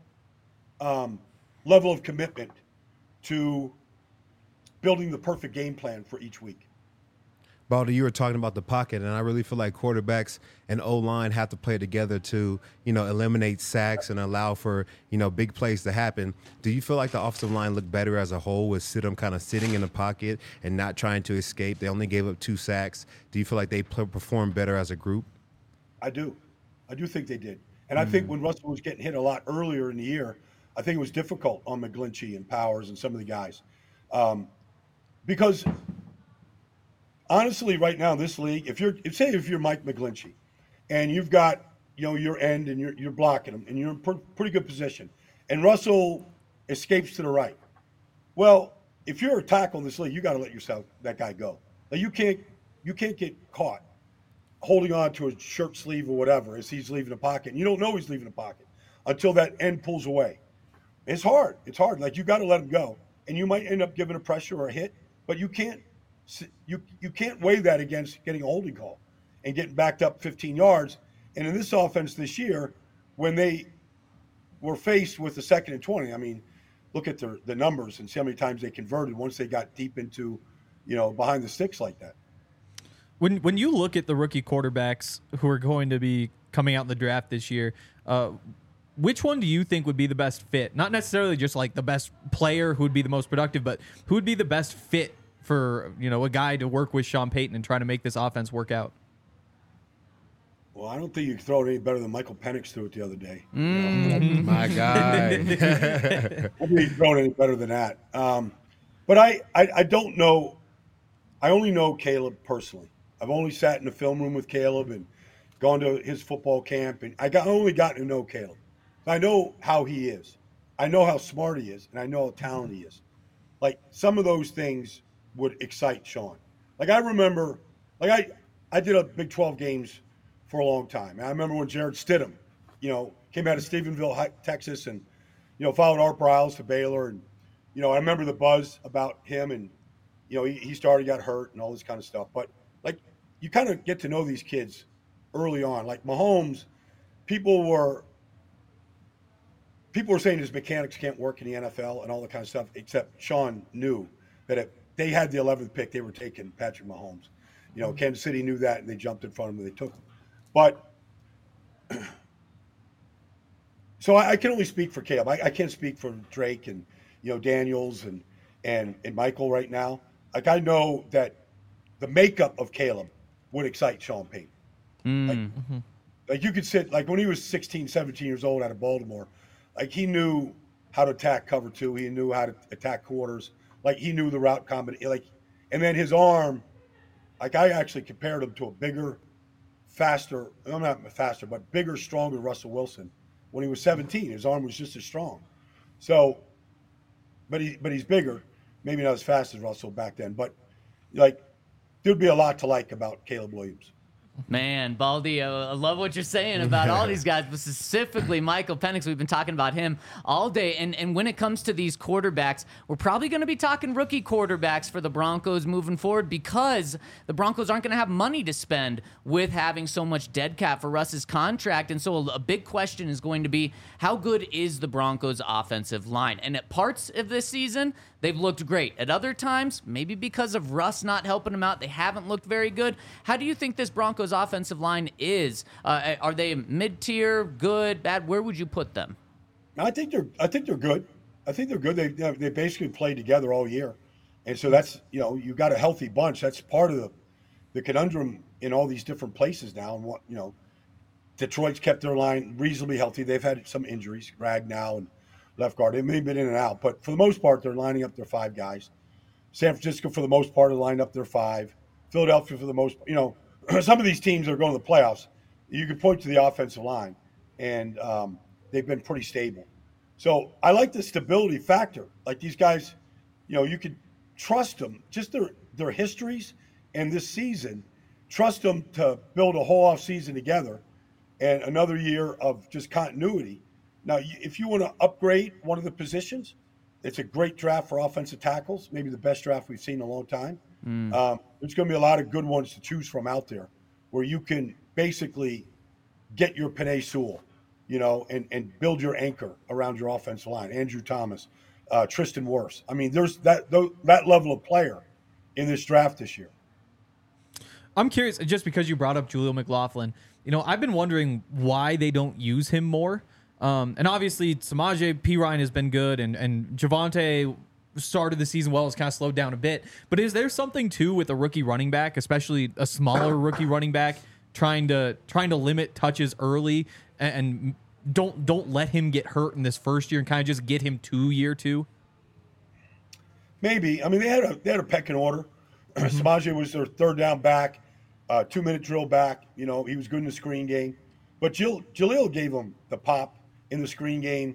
level of commitment to building the perfect game plan for each week. Baldy, you were talking about the pocket, and I really feel like quarterbacks and O-line have to play together to, eliminate sacks and allow for, big plays to happen. Do you feel like the offensive line looked better as a whole with Stidham kind of sitting in the pocket and not trying to escape? They only gave up 2 sacks. Do you feel like they performed better as a group? I do. I do think they did. And I think when Russell was getting hit a lot earlier in the year, I think it was difficult on McGlinchey and Powers and some of the guys. Because honestly, right now in this league, if you're Mike McGlinchey and you've got your end and you're blocking him and you're in pretty good position, and Russell escapes to the right, well, if you're a tackle in this league, you got to let that guy go. Like, you can't get caught holding on to a shirt sleeve or whatever as he's leaving the pocket, and you don't know he's leaving the pocket until that end pulls away. It's hard. Like, you got to let him go, and you might end up giving a pressure or a hit, but you can't weigh that against getting a holding call and getting backed up 15 yards. And in this offense this year, when they were faced with the 2nd and 20, I mean, look at the numbers and see how many times they converted once they got deep into, behind the sticks like that. When you look at the rookie quarterbacks who are going to be coming out in the draft this year, which one do you think would be the best fit? Not necessarily just like the best player who would be the most productive, but who would be the best fit for a guy to work with Sean Payton and try to make this offense work out? Well, I don't think you can throw it any better than Michael Penix threw it the other day. My guy. I don't think you can throw it any better than that. But I don't know. I only know Caleb personally. I've only sat in the film room with Caleb and gone to his football camp, and only gotten to know Caleb. I know how he is. I know how smart he is, and I know how talented he is. Like, some of those things would excite Sean. Like, I remember, I did a Big 12 games for a long time. And I remember when Jared Stidham, came out of Stephenville, Texas, and, followed Art Briles to Baylor. And, I remember the buzz about him, and, he started, got hurt and all this kind of stuff. But, you kind of get to know these kids early on. Like Mahomes, people were saying his mechanics can't work in the NFL and all that kind of stuff, except Sean knew that if they had the 11th pick, they were taking Patrick Mahomes. Kansas City knew that, and they jumped in front of him and they took him. But so I can only speak for Caleb. I can't speak for Drake and, Daniels and Michael right now. Like, I know that the makeup of Caleb would excite Sean Payton. Like you could sit, like when he was 16, 17 years old out of Baltimore, like he knew how to attack cover 2. He knew how to attack quarters. Like, he knew the route combination. And then his arm, like, I actually compared him to a bigger, faster, I'm not faster, but bigger, stronger Russell Wilson when he was 17. His arm was just as strong. So, but he's bigger, maybe not as fast as Russell back then. But, there'd be a lot to like about Caleb Williams. Man, Baldy, I love what you're saying about all these guys, but specifically Michael Penix. We've been talking about him all day. And when it comes to these quarterbacks, we're probably going to be talking rookie quarterbacks for the Broncos moving forward, because the Broncos aren't going to have money to spend with having so much dead cap for Russ's contract. And so a big question is going to be, how good is the Broncos offensive line? And at parts of this season, they've looked great. At other times, maybe because of Russ not helping them out, they haven't looked very good. How do you think this Broncos offensive line is? Are they mid-tier, good, bad? Where would you put them? I think they're good. I think they're good. They basically played together all year, and so that's you got a healthy bunch. That's part of the conundrum in all these different places now. And what Detroit's kept their line reasonably healthy. They've had some injuries, Ragnow and left guard. They may have been in and out, but for the most part, they're lining up their 5 guys. San Francisco, for the most part, are lining up their 5. Philadelphia, for the most, some of these teams that are going to the playoffs, you can point to the offensive line, and they've been pretty stable. So I like the stability factor. Like, these guys, you could trust them, just their histories and this season, trust them to build a whole off season together and another year of just continuity. Now, if you want to upgrade one of the positions, it's a great draft for offensive tackles, maybe the best draft we've seen in a long time. There's going to be a lot of good ones to choose from out there where you can basically get your Penei Sewell, and build your anchor around your offensive line. Andrew Thomas, Tristan Wirfs. I mean, there's that level of player in this draft this year. I'm curious, just because you brought up Jaleel McLaughlin, I've been wondering why they don't use him more. And obviously, Samaje Perine has been good, and Javonte started the season well, has kind of slowed down a bit. But is there something, too, with a rookie running back, especially a smaller rookie running back, trying to limit touches early and don't let him get hurt in this first year and kind of just get him to year two? Maybe. I mean, they had a pecking order. Samaje was their third down back, 2-minute drill back. He was good in the screen game. But Jaleel gave him the pop in the screen game.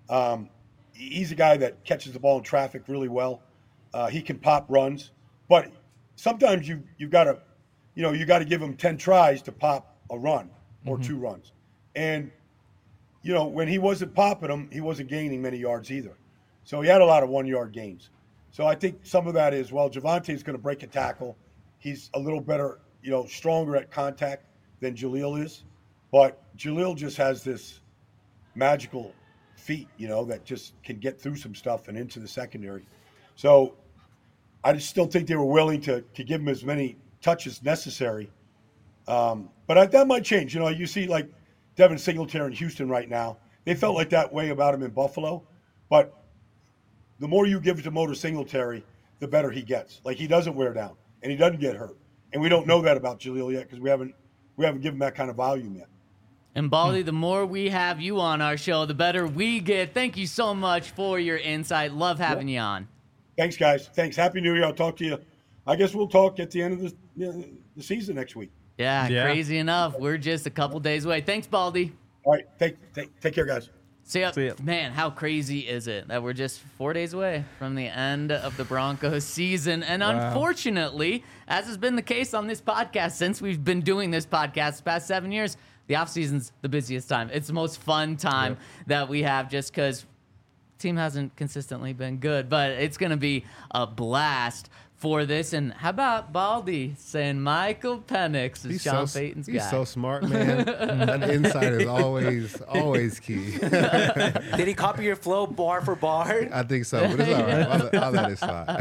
He's a guy that catches the ball in traffic really well. He can pop runs. But sometimes you've got to, you got to give him 10 tries to pop a run or 2 runs. And, when he wasn't popping them, he wasn't gaining many yards either. So he had a lot of 1-yard gains. So I think some of that is, Javonte is going to break a tackle. He's a little better, stronger at contact than Jaleel is. But Jaleel just has this magical feet, that just can get through some stuff and into the secondary. So I just still think they were willing to give him as many touches necessary. But that might change. You see like Devin Singletary in Houston right now. They felt like that way about him in Buffalo. But the more you give it to Motor Singletary, the better he gets. Like, he doesn't wear down, and he doesn't get hurt. And we don't know that about Jaleel yet because we haven't given that kind of volume yet. And Baldy, the more we have you on our show, the better we get. Thank you so much for your insight. Love having you on. Thanks, guys. Thanks. Happy New Year. I'll talk to you. I guess we'll talk at the end of the season next week. Yeah, crazy enough. We're just a couple days away. Thanks, Baldy. All right. Take care, guys. See ya. Man, how crazy is it that we're just 4 days away from the end of the Broncos season? And unfortunately, as has been the case on this podcast since we've been doing this podcast the past 7 years, the offseason's the busiest time. It's the most fun time that we have just because the team hasn't consistently been good. But it's going to be a blast for this. And how about Baldy saying Michael Penix is Sean Payton's guy? He's so smart, man. That insight is always key. Did he copy your flow bar for bar? I think so, but it's all right. I'll let it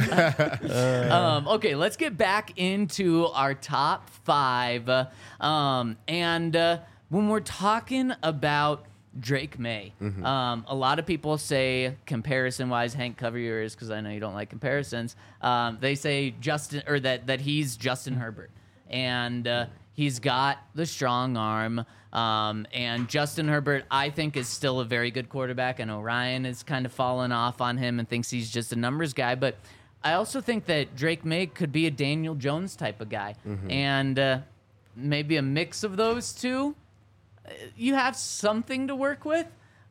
slide. Okay, let's get back into our top 5. When we're talking about Drake May, a lot of people say comparison-wise, Hank, cover your ears because I know you don't like comparisons. They say that he's Justin Herbert, and he's got the strong arm. And Justin Herbert, I think, is still a very good quarterback. I know Ryan is kind of fallen off on him and thinks he's just a numbers guy, but I also think that Drake May could be a Daniel Jones type of guy, and maybe a mix of those two. You have something to work with,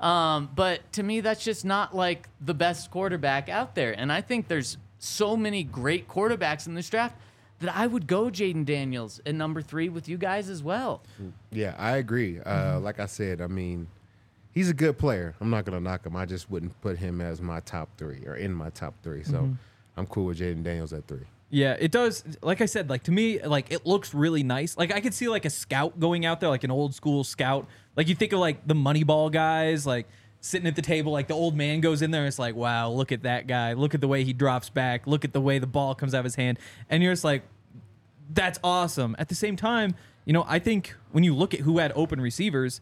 but to me, that's just not like the best quarterback out there. And I think there's so many great quarterbacks in this draft that I would go Jaden Daniels at number 3 with you guys as well. Yeah, I agree. Like I said, I mean, he's a good player. I'm not going to knock him. I just wouldn't put him as my top 3 or in my top 3. So I'm cool with Jaden Daniels at 3. Yeah, it does. Like I said, like to me, like it looks really nice. Like I could see like a scout going out there, like an old school scout. Like you think of like the Moneyball guys, like sitting at the table, like the old man goes in there and it's like, wow, look at that guy. Look at the way he drops back. Look at the way the ball comes out of his hand. And you're just like, that's awesome. At the same time, I think when you look at who had open receivers,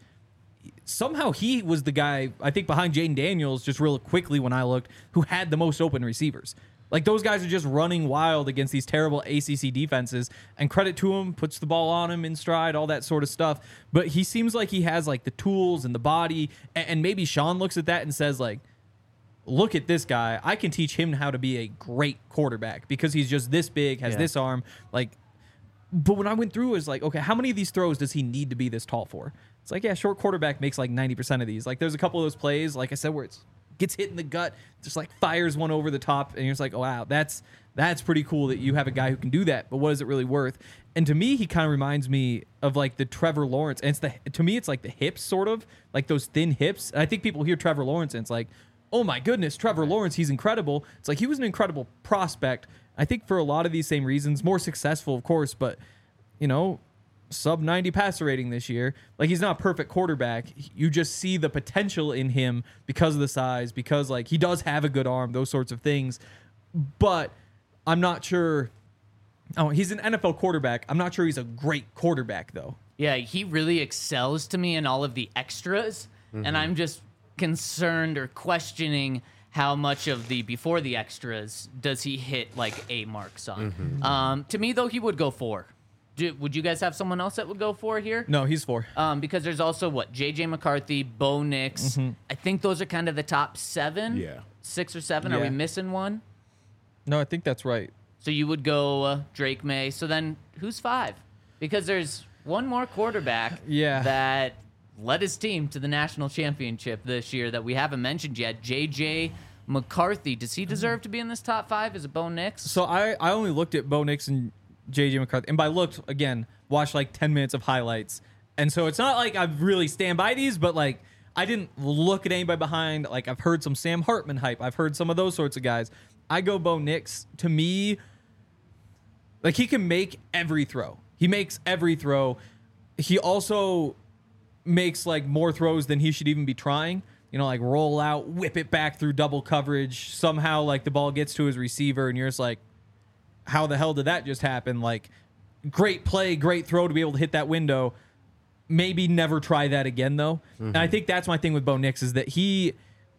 somehow he was the guy, I think behind Jaden Daniels, just real quickly when I looked, who had the most open receivers. Like, those guys are just running wild against these terrible ACC defenses, and credit to him, puts the ball on him in stride, all that sort of stuff. But he seems like he has, like, the tools and the body, and maybe Sean looks at that and says, like, look at this guy. I can teach him how to be a great quarterback because he's just this big, has this arm. Like, but when I went through, it was like, okay, how many of these throws does he need to be this tall for? It's like, yeah, short quarterback makes, like, 90% of these. Like, there's a couple of those plays, like I said, where it's gets hit in the gut, just like fires one over the top, and you're just like, oh, wow, that's pretty cool that you have a guy who can do that, but what is it really worth? And to me, he kind of reminds me of like the Trevor Lawrence, and to me, it's like the hips, sort of, like those thin hips. And I think people hear Trevor Lawrence, and it's like, oh my goodness, Trevor Lawrence, he's incredible. It's like he was an incredible prospect. I think for a lot of these same reasons, more successful, of course, but, sub 90 passer rating this year. Like, he's not a perfect quarterback. You just see the potential in him because of the size, because like he does have a good arm, those sorts of things. But I'm not sure. Oh, he's an NFL quarterback. I'm not sure he's a great quarterback though. Yeah, he really excels to me in all of the extras, and I'm just concerned or questioning how much of the before the extras does he hit like A marks on. To me, though, he would go 4. Would you guys have someone else that would go 4 here? No, he's 4. Because there's also J.J. McCarthy, Bo Nix. I think those are kind of the top 7. Yeah. 6 or 7. Are Yeah. we missing one? No, I think that's right. So you would go Drake May. So then who's 5? Because there's one more quarterback that led his team to the national championship this year that we haven't mentioned yet, J.J. McCarthy. Does he deserve to be in this top 5? Is it Bo Nix? So I only looked at Bo Nix and J.J. McCarthy. And by looked, again, watched like 10 minutes of highlights. And so it's not like I really stand by these, but like I didn't look at anybody behind. Like I've heard some Sam Hartman hype. I've heard some of those sorts of guys. I go Bo Nix. To me, like he can make every throw. He makes every throw. He also makes like more throws than he should even be trying. You know, like roll out, whip it back through double coverage. Somehow like the ball gets to his receiver and you're just like, how the hell did that just happen? Like, great play, great throw to be able to hit that window. Maybe never try that again, though. And I think that's my thing with Bo Nix is that he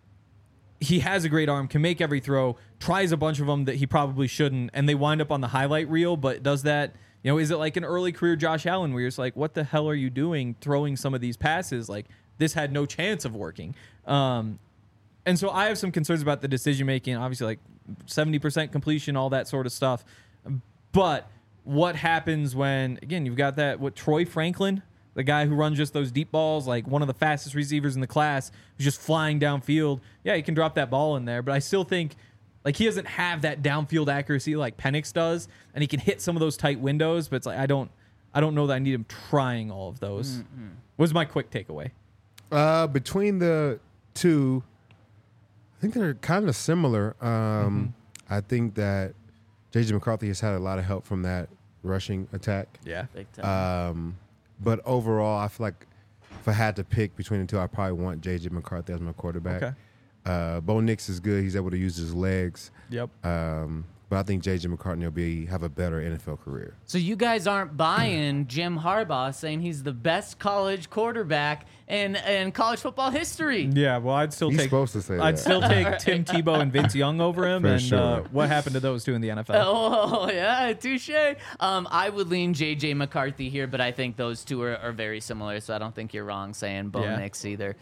has a great arm, can make every throw, tries a bunch of them that he probably shouldn't, and they wind up on the highlight reel, but does that, you know, is it like an early career Josh Allen where you're just like, what the hell are you doing throwing some of these passes? Like, this had no chance of working. And so I have some concerns about the decision-making, obviously, like 70% completion, all that sort of stuff. But what happens when, again, you've got Troy Franklin, the guy who runs just those deep balls, like one of the fastest receivers in the class, who's just flying downfield. Yeah, he can drop that ball in there, but I still think like he doesn't have that downfield accuracy like Penix does, and he can hit some of those tight windows, but it's like I don't know that I need him trying all of those. Was my quick takeaway. Between the two, I think they're kind of similar. I think that J.J. McCarthy has had a lot of help from that rushing attack. Yeah. Big time. But overall, I feel like if I had to pick between the two, I probably want J.J. McCarthy as my quarterback. Okay. Bo Nix is good. He's able to use his legs. Yep. But I think J.J. McCarthy will have a better NFL career. So you guys aren't buying Jim Harbaugh saying he's the best college quarterback in college football history. Yeah, well, I'd still He's take. supposed to say I'd that. still take Tim Tebow and Vince Young over him. For and sure. what happened to those two in the NFL? Oh, yeah, touche. I would lean J.J. McCarthy here, but I think those two are very similar, so I don't think you're wrong saying Bo Nix either.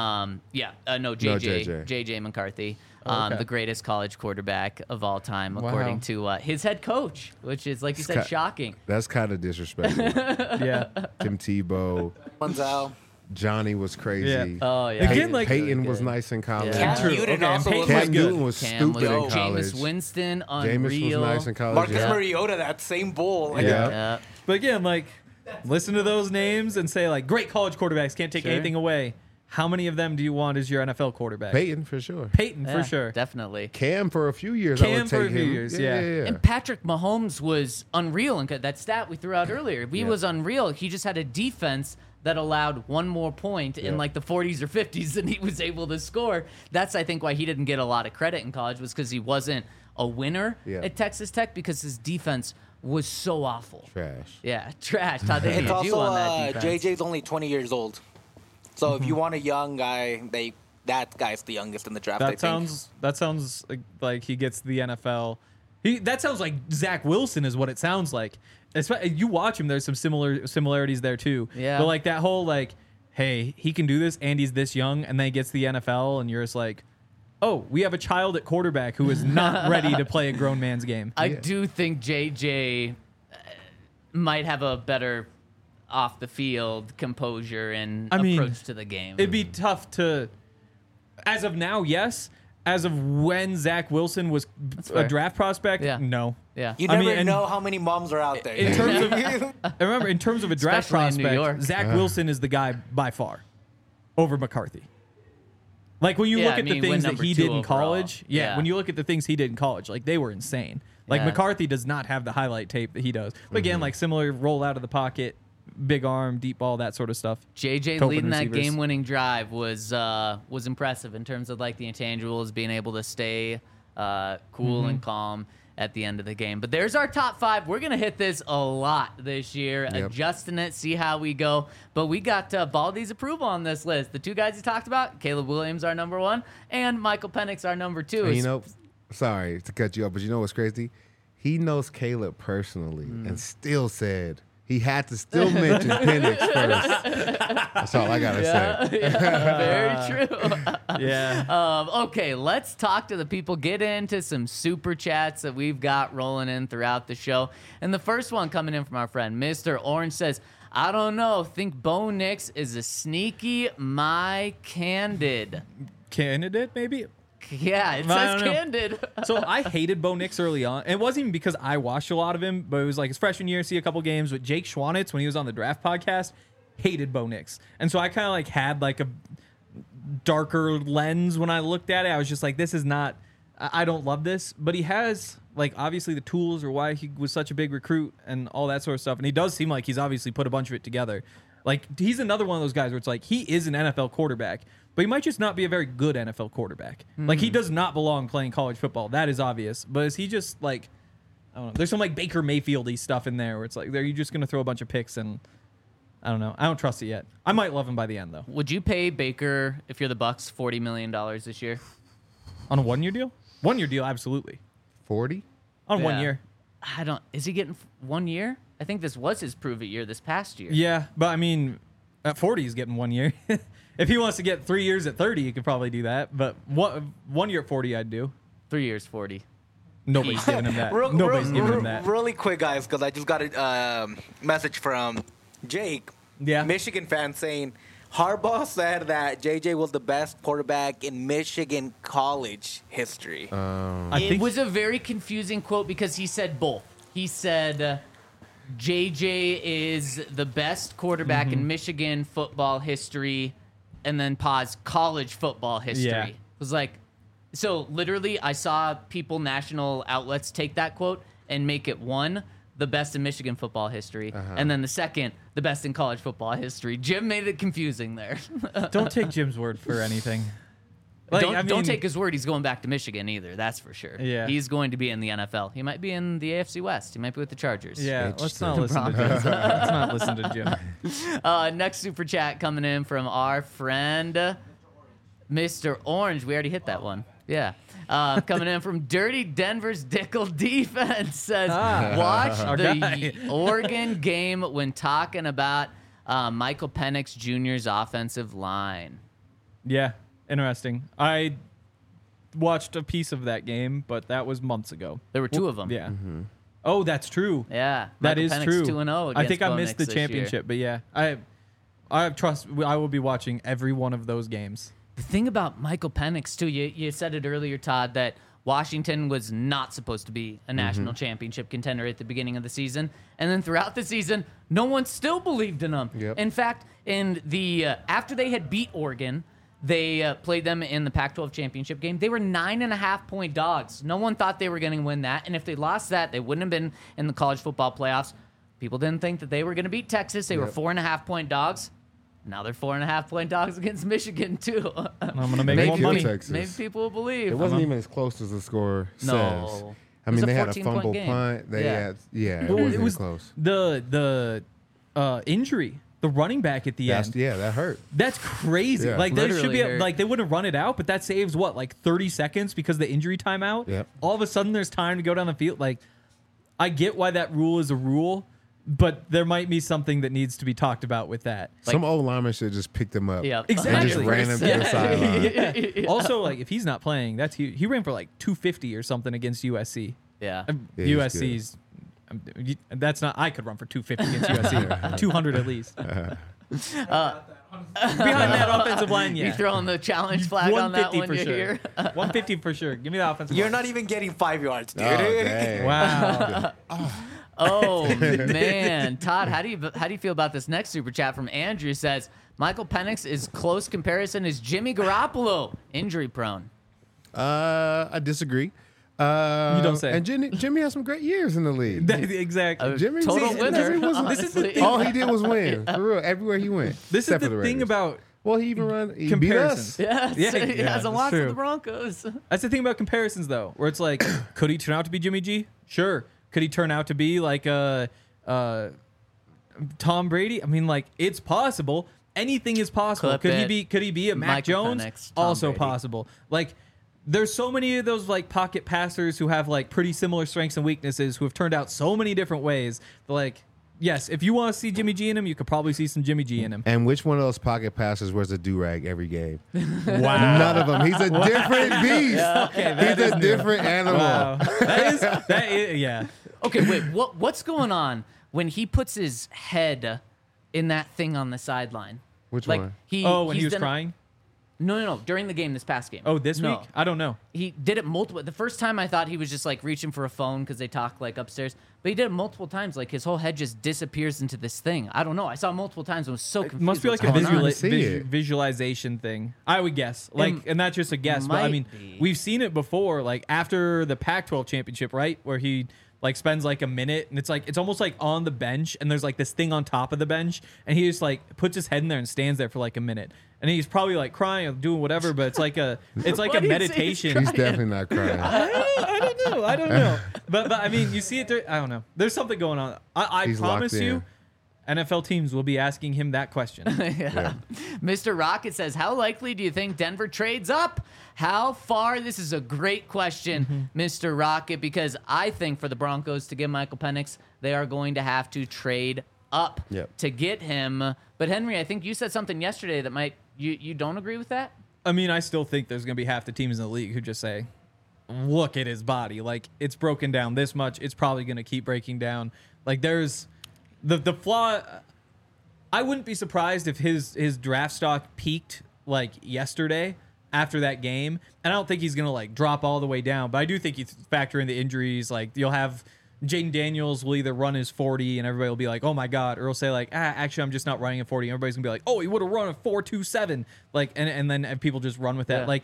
No, J.J. McCarthy, Okay. the greatest college quarterback of all time, according to his head coach, which is, like you said, shocking. That's kind of disrespectful. Yeah. Tim Tebow. Manziel. Johnny was crazy. Yeah. Oh, yeah. Again, like- Peyton was nice in college. Yeah. Cam Newton Okay, also and was Peyton like Cam good. Newton was Cam stupid in college. Jameis Winston, Jameis unreal. was nice in college. Marcus yeah. Mariota, that same bull. Like, Yeah. Yeah. But again, like, listen to those names and say, like, great college quarterbacks, can't take Sure. anything away. How many of them do you want as your NFL quarterback? Peyton for sure. Peyton, Yeah, for sure. Definitely. Cam for a few years. I Cam would for take a few him. years, Yeah. And Patrick Mahomes was unreal. And that stat we threw out earlier, he was unreal. He just had a defense that allowed one more point in like the 40s or 50s than he was able to score. That's, I think, why he didn't get a lot of credit in college, was because he wasn't a winner at Texas Tech, because his defense was so awful. Trash. Yeah, trash. Todd, they It's need you also on that defense. JJ's only 20 years old. So if you want a young guy, that guy's the youngest in the draft. I think. That sounds like he gets the NFL. That sounds like Zach Wilson is what it sounds like. You watch him, there's some similarities there too. Yeah. But like that whole like, hey, he can do this and he's this young, and then he gets the NFL, and you're just like, oh, we have a child at quarterback who is not ready to play a grown man's game. I do think JJ might have a better off the field composure and approach to the game. It'd be tough to, as of now, yes. As of when Zach Wilson was fair. a draft prospect, Yeah. no. Yeah. You I never mean, and- know how many moms are out there. In terms of, I remember in terms of a draft Especially in New York. prospect, Zach Wilson is the guy by far over McCarthy. Like when you Yeah, look I at the mean, things went that number he 2 did in overall. college, Yeah. when you look at the things he did in college, like they were insane. Like Yeah. McCarthy does not have the highlight tape that he does. But again, like similar roll out of the pocket, big arm, deep ball, that sort of stuff. JJ Open leading that receivers. game-winning drive was impressive in terms of like the intangibles, being able to stay cool and calm at the end of the game. But there's our top 5. We're gonna hit this a lot this year, adjusting it, see how we go. But we got Baldy's approval on this list. The 2 guys you talked about, Caleb Williams, our number 1, and Michael Penix, our number 2. And you know, sorry to cut you off, but you know what's crazy? He knows Caleb personally and still said he had to still mention Penix first. That's all I gotta say. Very true. Yeah. Okay, let's talk to the people. Get into some super chats that we've got rolling in throughout the show. And the first one coming in from our friend, Mr. Orange, says, I don't know. Think Bo Nix is a sneaky my candid. Candidate, maybe? Yeah, it I says don't know. candid. So I hated Bo Nix early on. And it wasn't even because I watched a lot of him, but it was like his freshman year, see a couple games with Jake Schwanitz when he was on the Draft Podcast. Hated Bo Nix. And so I kind of like had like a darker lens when I looked at it. I was just like, this is not, I don't love this. But he has like obviously the tools or why he was such a big recruit and all that sort of stuff. And he does seem like he's obviously put a bunch of it together. Like he's another one of those guys where it's like he is an NFL quarterback, but he might just not be a very good NFL quarterback. Like he does not belong playing college football. That is obvious. But is he just like, I don't know. There's some like Baker Mayfield-y stuff in there where it's like, are you just going to throw a bunch of picks and I don't know. I don't trust it yet. I might love him by the end though. Would you pay Baker, if you're the Bucks, $40 million this year? On a 1-year deal? 1-year deal, absolutely. 40? On Yeah. 1 year. I don't. Is he getting 1 year? I think this was his prove it year this past year. Yeah, but I mean, at 40, he's getting 1 year. If he wants to get 3 years at 30, he could probably do that. But 1 year at 40, I'd do. 3 years, 40. Nobody's giving him that. Real- Nobody's real- giving him that. Really quick, guys, because I just got a message from Jake, Yeah. Michigan fan, saying Harbaugh said that JJ was the best quarterback in Michigan college history. I It think was a very confusing quote because he said both. He said JJ is the best quarterback in Michigan football history, and then pause, college football history. Yeah. It was like, so literally I saw people, national outlets take that quote and make it one, the best in Michigan football history, and then the second, the best in college football history. Jim made it confusing there. don't take Jim's word for anything. Like, Don't take his word. He's going back to Michigan either. That's for sure. Yeah. He's going to be in the NFL. He might be in the AFC West. He might be with the Chargers. Yeah, let's Interesting. not listen to Jim. Let's not listen to Jim. Next super chat coming in from our friend, Mr. Orange. We already hit that one. Yeah. Coming in from Dirty Denver's Dickel Defense says, watch our the guy. Oregon game when talking about Michael Penix Jr.'s offensive line. Yeah, interesting. I watched a piece of that game, but that was months ago. There were two of them. Yeah. Oh, that's true. Yeah. That Michael is Penix true. 2-0 I think against I Bo missed Nix the this year. championship, but yeah, I trust. I will be watching every one of those games. The thing about Michael Penix, too, you said it earlier, Todd, that Washington was not supposed to be a national championship contender at the beginning of the season. And then throughout the season, no one still believed in them. Yep. In fact, in the after they had beat Oregon, they played them in the Pac-12 championship game. They were 9.5-point dogs. No one thought they were going to win that. And if they lost that, they wouldn't have been in the college football playoffs. People didn't think that they were going to beat Texas. They were 4.5-point dogs. Now they're 4.5-point dogs against Michigan, too. I'm gonna make Maybe more kill money. Texas. Maybe people will believe. It wasn't even as close as the score No. says. I It was mean, a they had a 14-point fumble game. punt. They Yeah. had, it Well, wasn't it was close. the injury, the running back at the end. That hurt. That's crazy. Yeah. Like they should Literally be hurt. like they wouldn't run it out, but that saves what, like 30 seconds because of the injury timeout. Yep. All of a sudden there's time to go down the field. Like I get why that rule is a rule, but there might be something that needs to be talked about with that. Some old lineman should have just picked him up. Yeah, Exactly. And just ran him to the 100%. sideline. Also, like if he's not playing, that's huge. He ran for like 250 or something against USC. Yeah. Yeah, he's USC's. That's not. I could run for 250 against USC. 200 at least. Behind that offensive line, yeah. You throwing the challenge flag on that 150 one, for you sure. hear? 150 for sure. Give me the offensive You're line. not even getting 5 yards, dude. Oh, dang. Wow. Oh man, Todd, how do you feel about this next super chat from Andrew? Says Michael Penix is close comparison is Jimmy Garoppolo injury prone. I disagree. You don't say. And Jimmy has some great years in the league. Exactly. Jimmy Total winner. Jimmy wasn't- This is the thing. all he did was win. For real, everywhere he went. This is except for the the thing Raiders. about Well, he even he beat comparisons. us. Yes, Yeah, he yeah, has a that's lot for true. the Broncos. That's the thing about comparisons, though, where it's like, could he turn out to be Jimmy G? Sure. Could he turn out to be like Tom Brady? I mean, like, it's possible. Anything is possible. Clip Could he it. be? Could he be a Mac Michael Jones? Penix, Tom Also Brady. possible. Like, there's so many of those like pocket passers who have like pretty similar strengths and weaknesses who have turned out so many different ways. But like, yes, if you want to see Jimmy G in him, you could probably see some Jimmy G in him. And which one of those pocket passers wears a do-rag every game? Wow. None of them. He's a different beast. He's a different animal. Wow. That is yeah. Okay, wait. What's going on when he puts his head in that thing on the sideline? Which like, one? When he he's was done- crying. No. During the game, this past game. Oh, this No. week? I don't know. He did it multiple. The first time I thought he was just like reaching for a phone because they talk like upstairs, but he did it multiple times. Like his whole head just disappears into this thing. I don't know. I saw it multiple times and was so confused. It must be like a what's going on. See it. visualization thing. I would guess. Like, and that's just a guess. But I might mean, be. we've seen it before. Like after the Pac-12 championship, right, where he like spends like a minute, and it's almost like on the bench, and there's like this thing on top of the bench, and he just like puts his head in there and stands there for like a minute, and he's probably like crying or doing whatever. But it's like a Why do you say he's meditation. He's definitely not crying. I don't know. But I mean, you see it there. I don't know. There's something going on. I He's promise locked you, in. NFL teams will be asking him that question. Yeah. Mr. Rocket says, how likely do you think Denver trades up? How far? This is a great question, Mr. Rocket, because I think for the Broncos to get Michael Penix, they are going to have to trade up Yep. to get him. But Henry, I think you said something yesterday that might you don't agree with that? I mean, I still think there's going to be half the teams in the league who just say, look at his body. Like, it's broken down this much. It's probably going to keep breaking down. Like, there's the flaw. I wouldn't be surprised if his draft stock peaked, like, yesterday after that game. And I don't think he's going to, like, drop all the way down. But I do think you factor in the injuries. Like, you'll have Jaden Daniels will either run his 40 and everybody will be like, oh my God, or he'll say like, actually I'm just not running a 40. And everybody's gonna be like, oh, he would have run a 4.27. Like, and then people just run with that. Yeah. Like,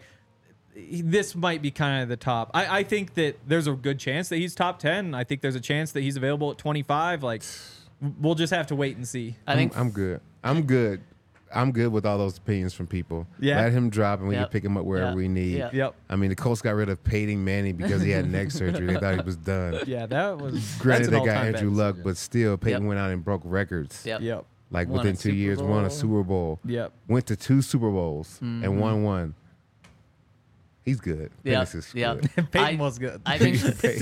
this might be kind of the top. I think that there's a good chance that he's top 10. I think there's a chance that he's available at 25. Like, we'll just have to wait and see. I think I'm good. I'm good with all those opinions from people. Yeah. Let him drop and we Yep. can pick him up wherever Yep. we need. Yep. Yep. I mean, the Colts got rid of Peyton Manning because he had neck surgery. They thought he was done. Yeah, that was. Granted, that's they an got all-time Andrew bad Luck, decision. but still, Peyton Yep. went out and broke records. Yep. Yep. Like Won a within 2 Super years, won Bowl. a Super Bowl. Yep. Went to 2 Super Bowls and won one. He's good. Yep. Penix is Yep. good. Peyton was good. I think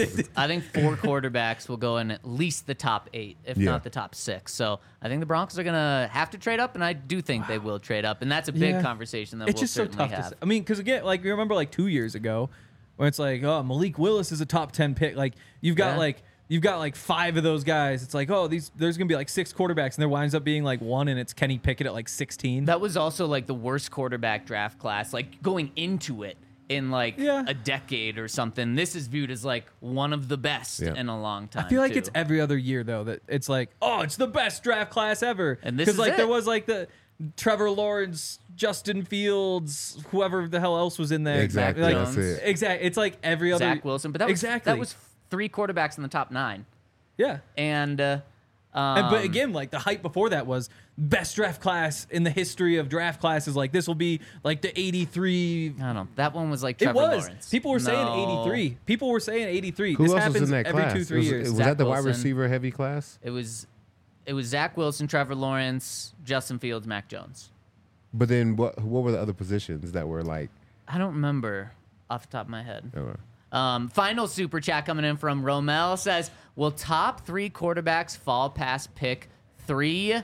4 quarterbacks will go in at least the top 8, if Yeah. not the top 6. So I think the Broncos are gonna have to trade up, and I do think they will trade up, and that's a big Yeah. conversation that It's we'll just so certainly tough have. to say. I mean, because again, like you remember like 2 years ago, when it's like, oh, Malik Willis is a top 10 pick. Like you've got like 5 of those guys. It's like, oh, there's gonna be like 6 quarterbacks, and there winds up being like 1, and it's Kenny Pickett at like 16. That was also like the worst quarterback draft class, like going into it in like Yeah. a decade or something. This is viewed as like one of the best Yeah. in a long time. I feel like too. it's every other year though that it's like, oh, it's the best draft class ever. And this because is like it. there was like the Trevor Lawrence, Justin Fields, whoever the hell else was in there. Exactly. Like, That's it. Exactly. It's like every other Zach Wilson, but that was exactly that was 3 quarterbacks in the top 9, yeah. and But again, like the hype before that was best draft class in the history of draft classes. Like this will be like the 83. I don't know. That one was like It Trevor was. Lawrence. People were saying No. 83. People were saying 83. Who this else happens was in that every class? 2-3 years. Was Zach that the wide Wilson. receiver heavy class? It was Zach Wilson, Trevor Lawrence, Justin Fields, Mac Jones. But then what were the other positions that were like? I don't remember off the top of my head. uh, Final super chat coming in from Romel says, will top 3 quarterbacks fall past pick 3?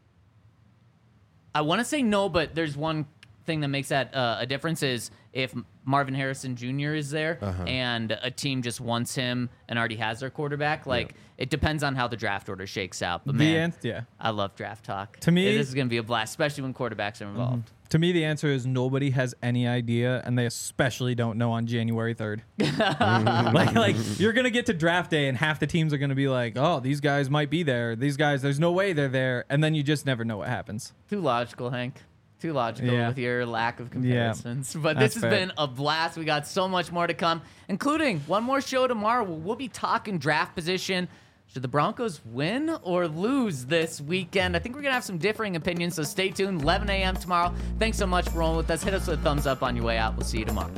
I want to say no, but there's one thing that makes that a difference is if Marvin Harrison Jr. is there and a team just wants him and already has their quarterback. Like, it depends on how the draft order shakes out. But, man, yeah. I love draft talk. To me- this is going to be a blast, especially when quarterbacks are involved. To me, the answer is nobody has any idea, and they especially don't know on January 3rd. like you're gonna get to draft day, and half the teams are gonna be like, "Oh, these guys might be there. These guys, there's no way they're there," and then you just never know what happens. Too logical, Hank. Too logical Yeah. with your lack of comparisons. But this That's has fair. been a blast. We got so much more to come, including one more show tomorrow. We'll be talking draft position. Should the Broncos win or lose this weekend? I think we're going to have some differing opinions, so stay tuned. 11 a.m. tomorrow. Thanks so much for rolling with us. Hit us with a thumbs up on your way out. We'll see you tomorrow.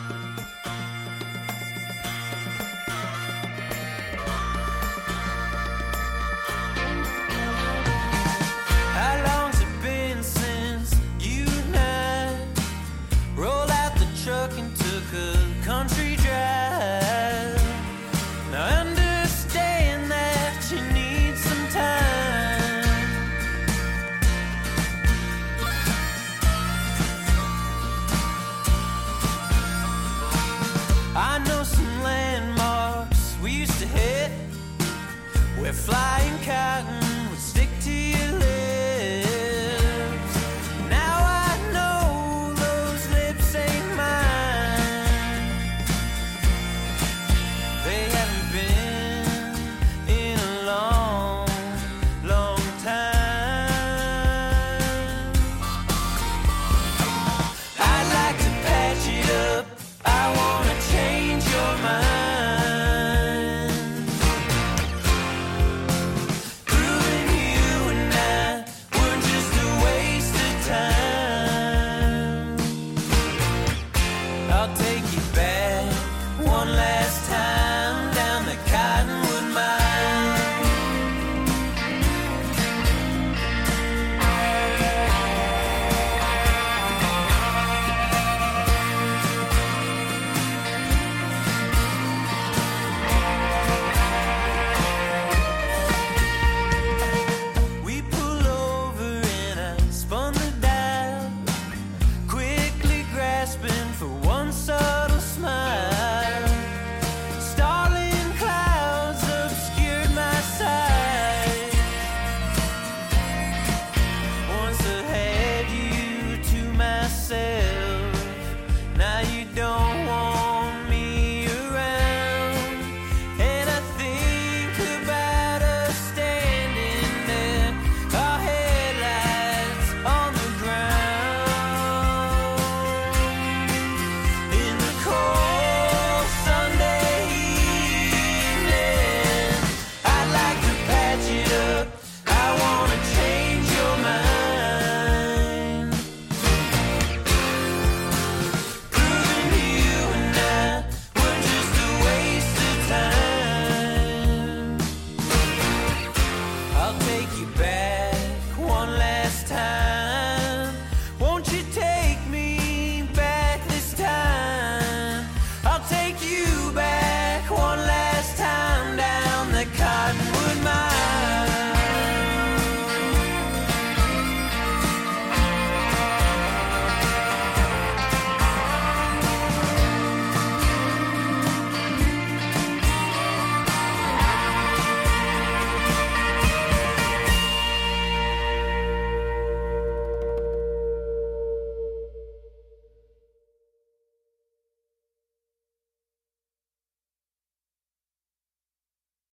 How long's it been since you and I rolled out the truck and took a country drive? Now I understand that you need some time. I know some landmarks we used to hit. We're flying cotton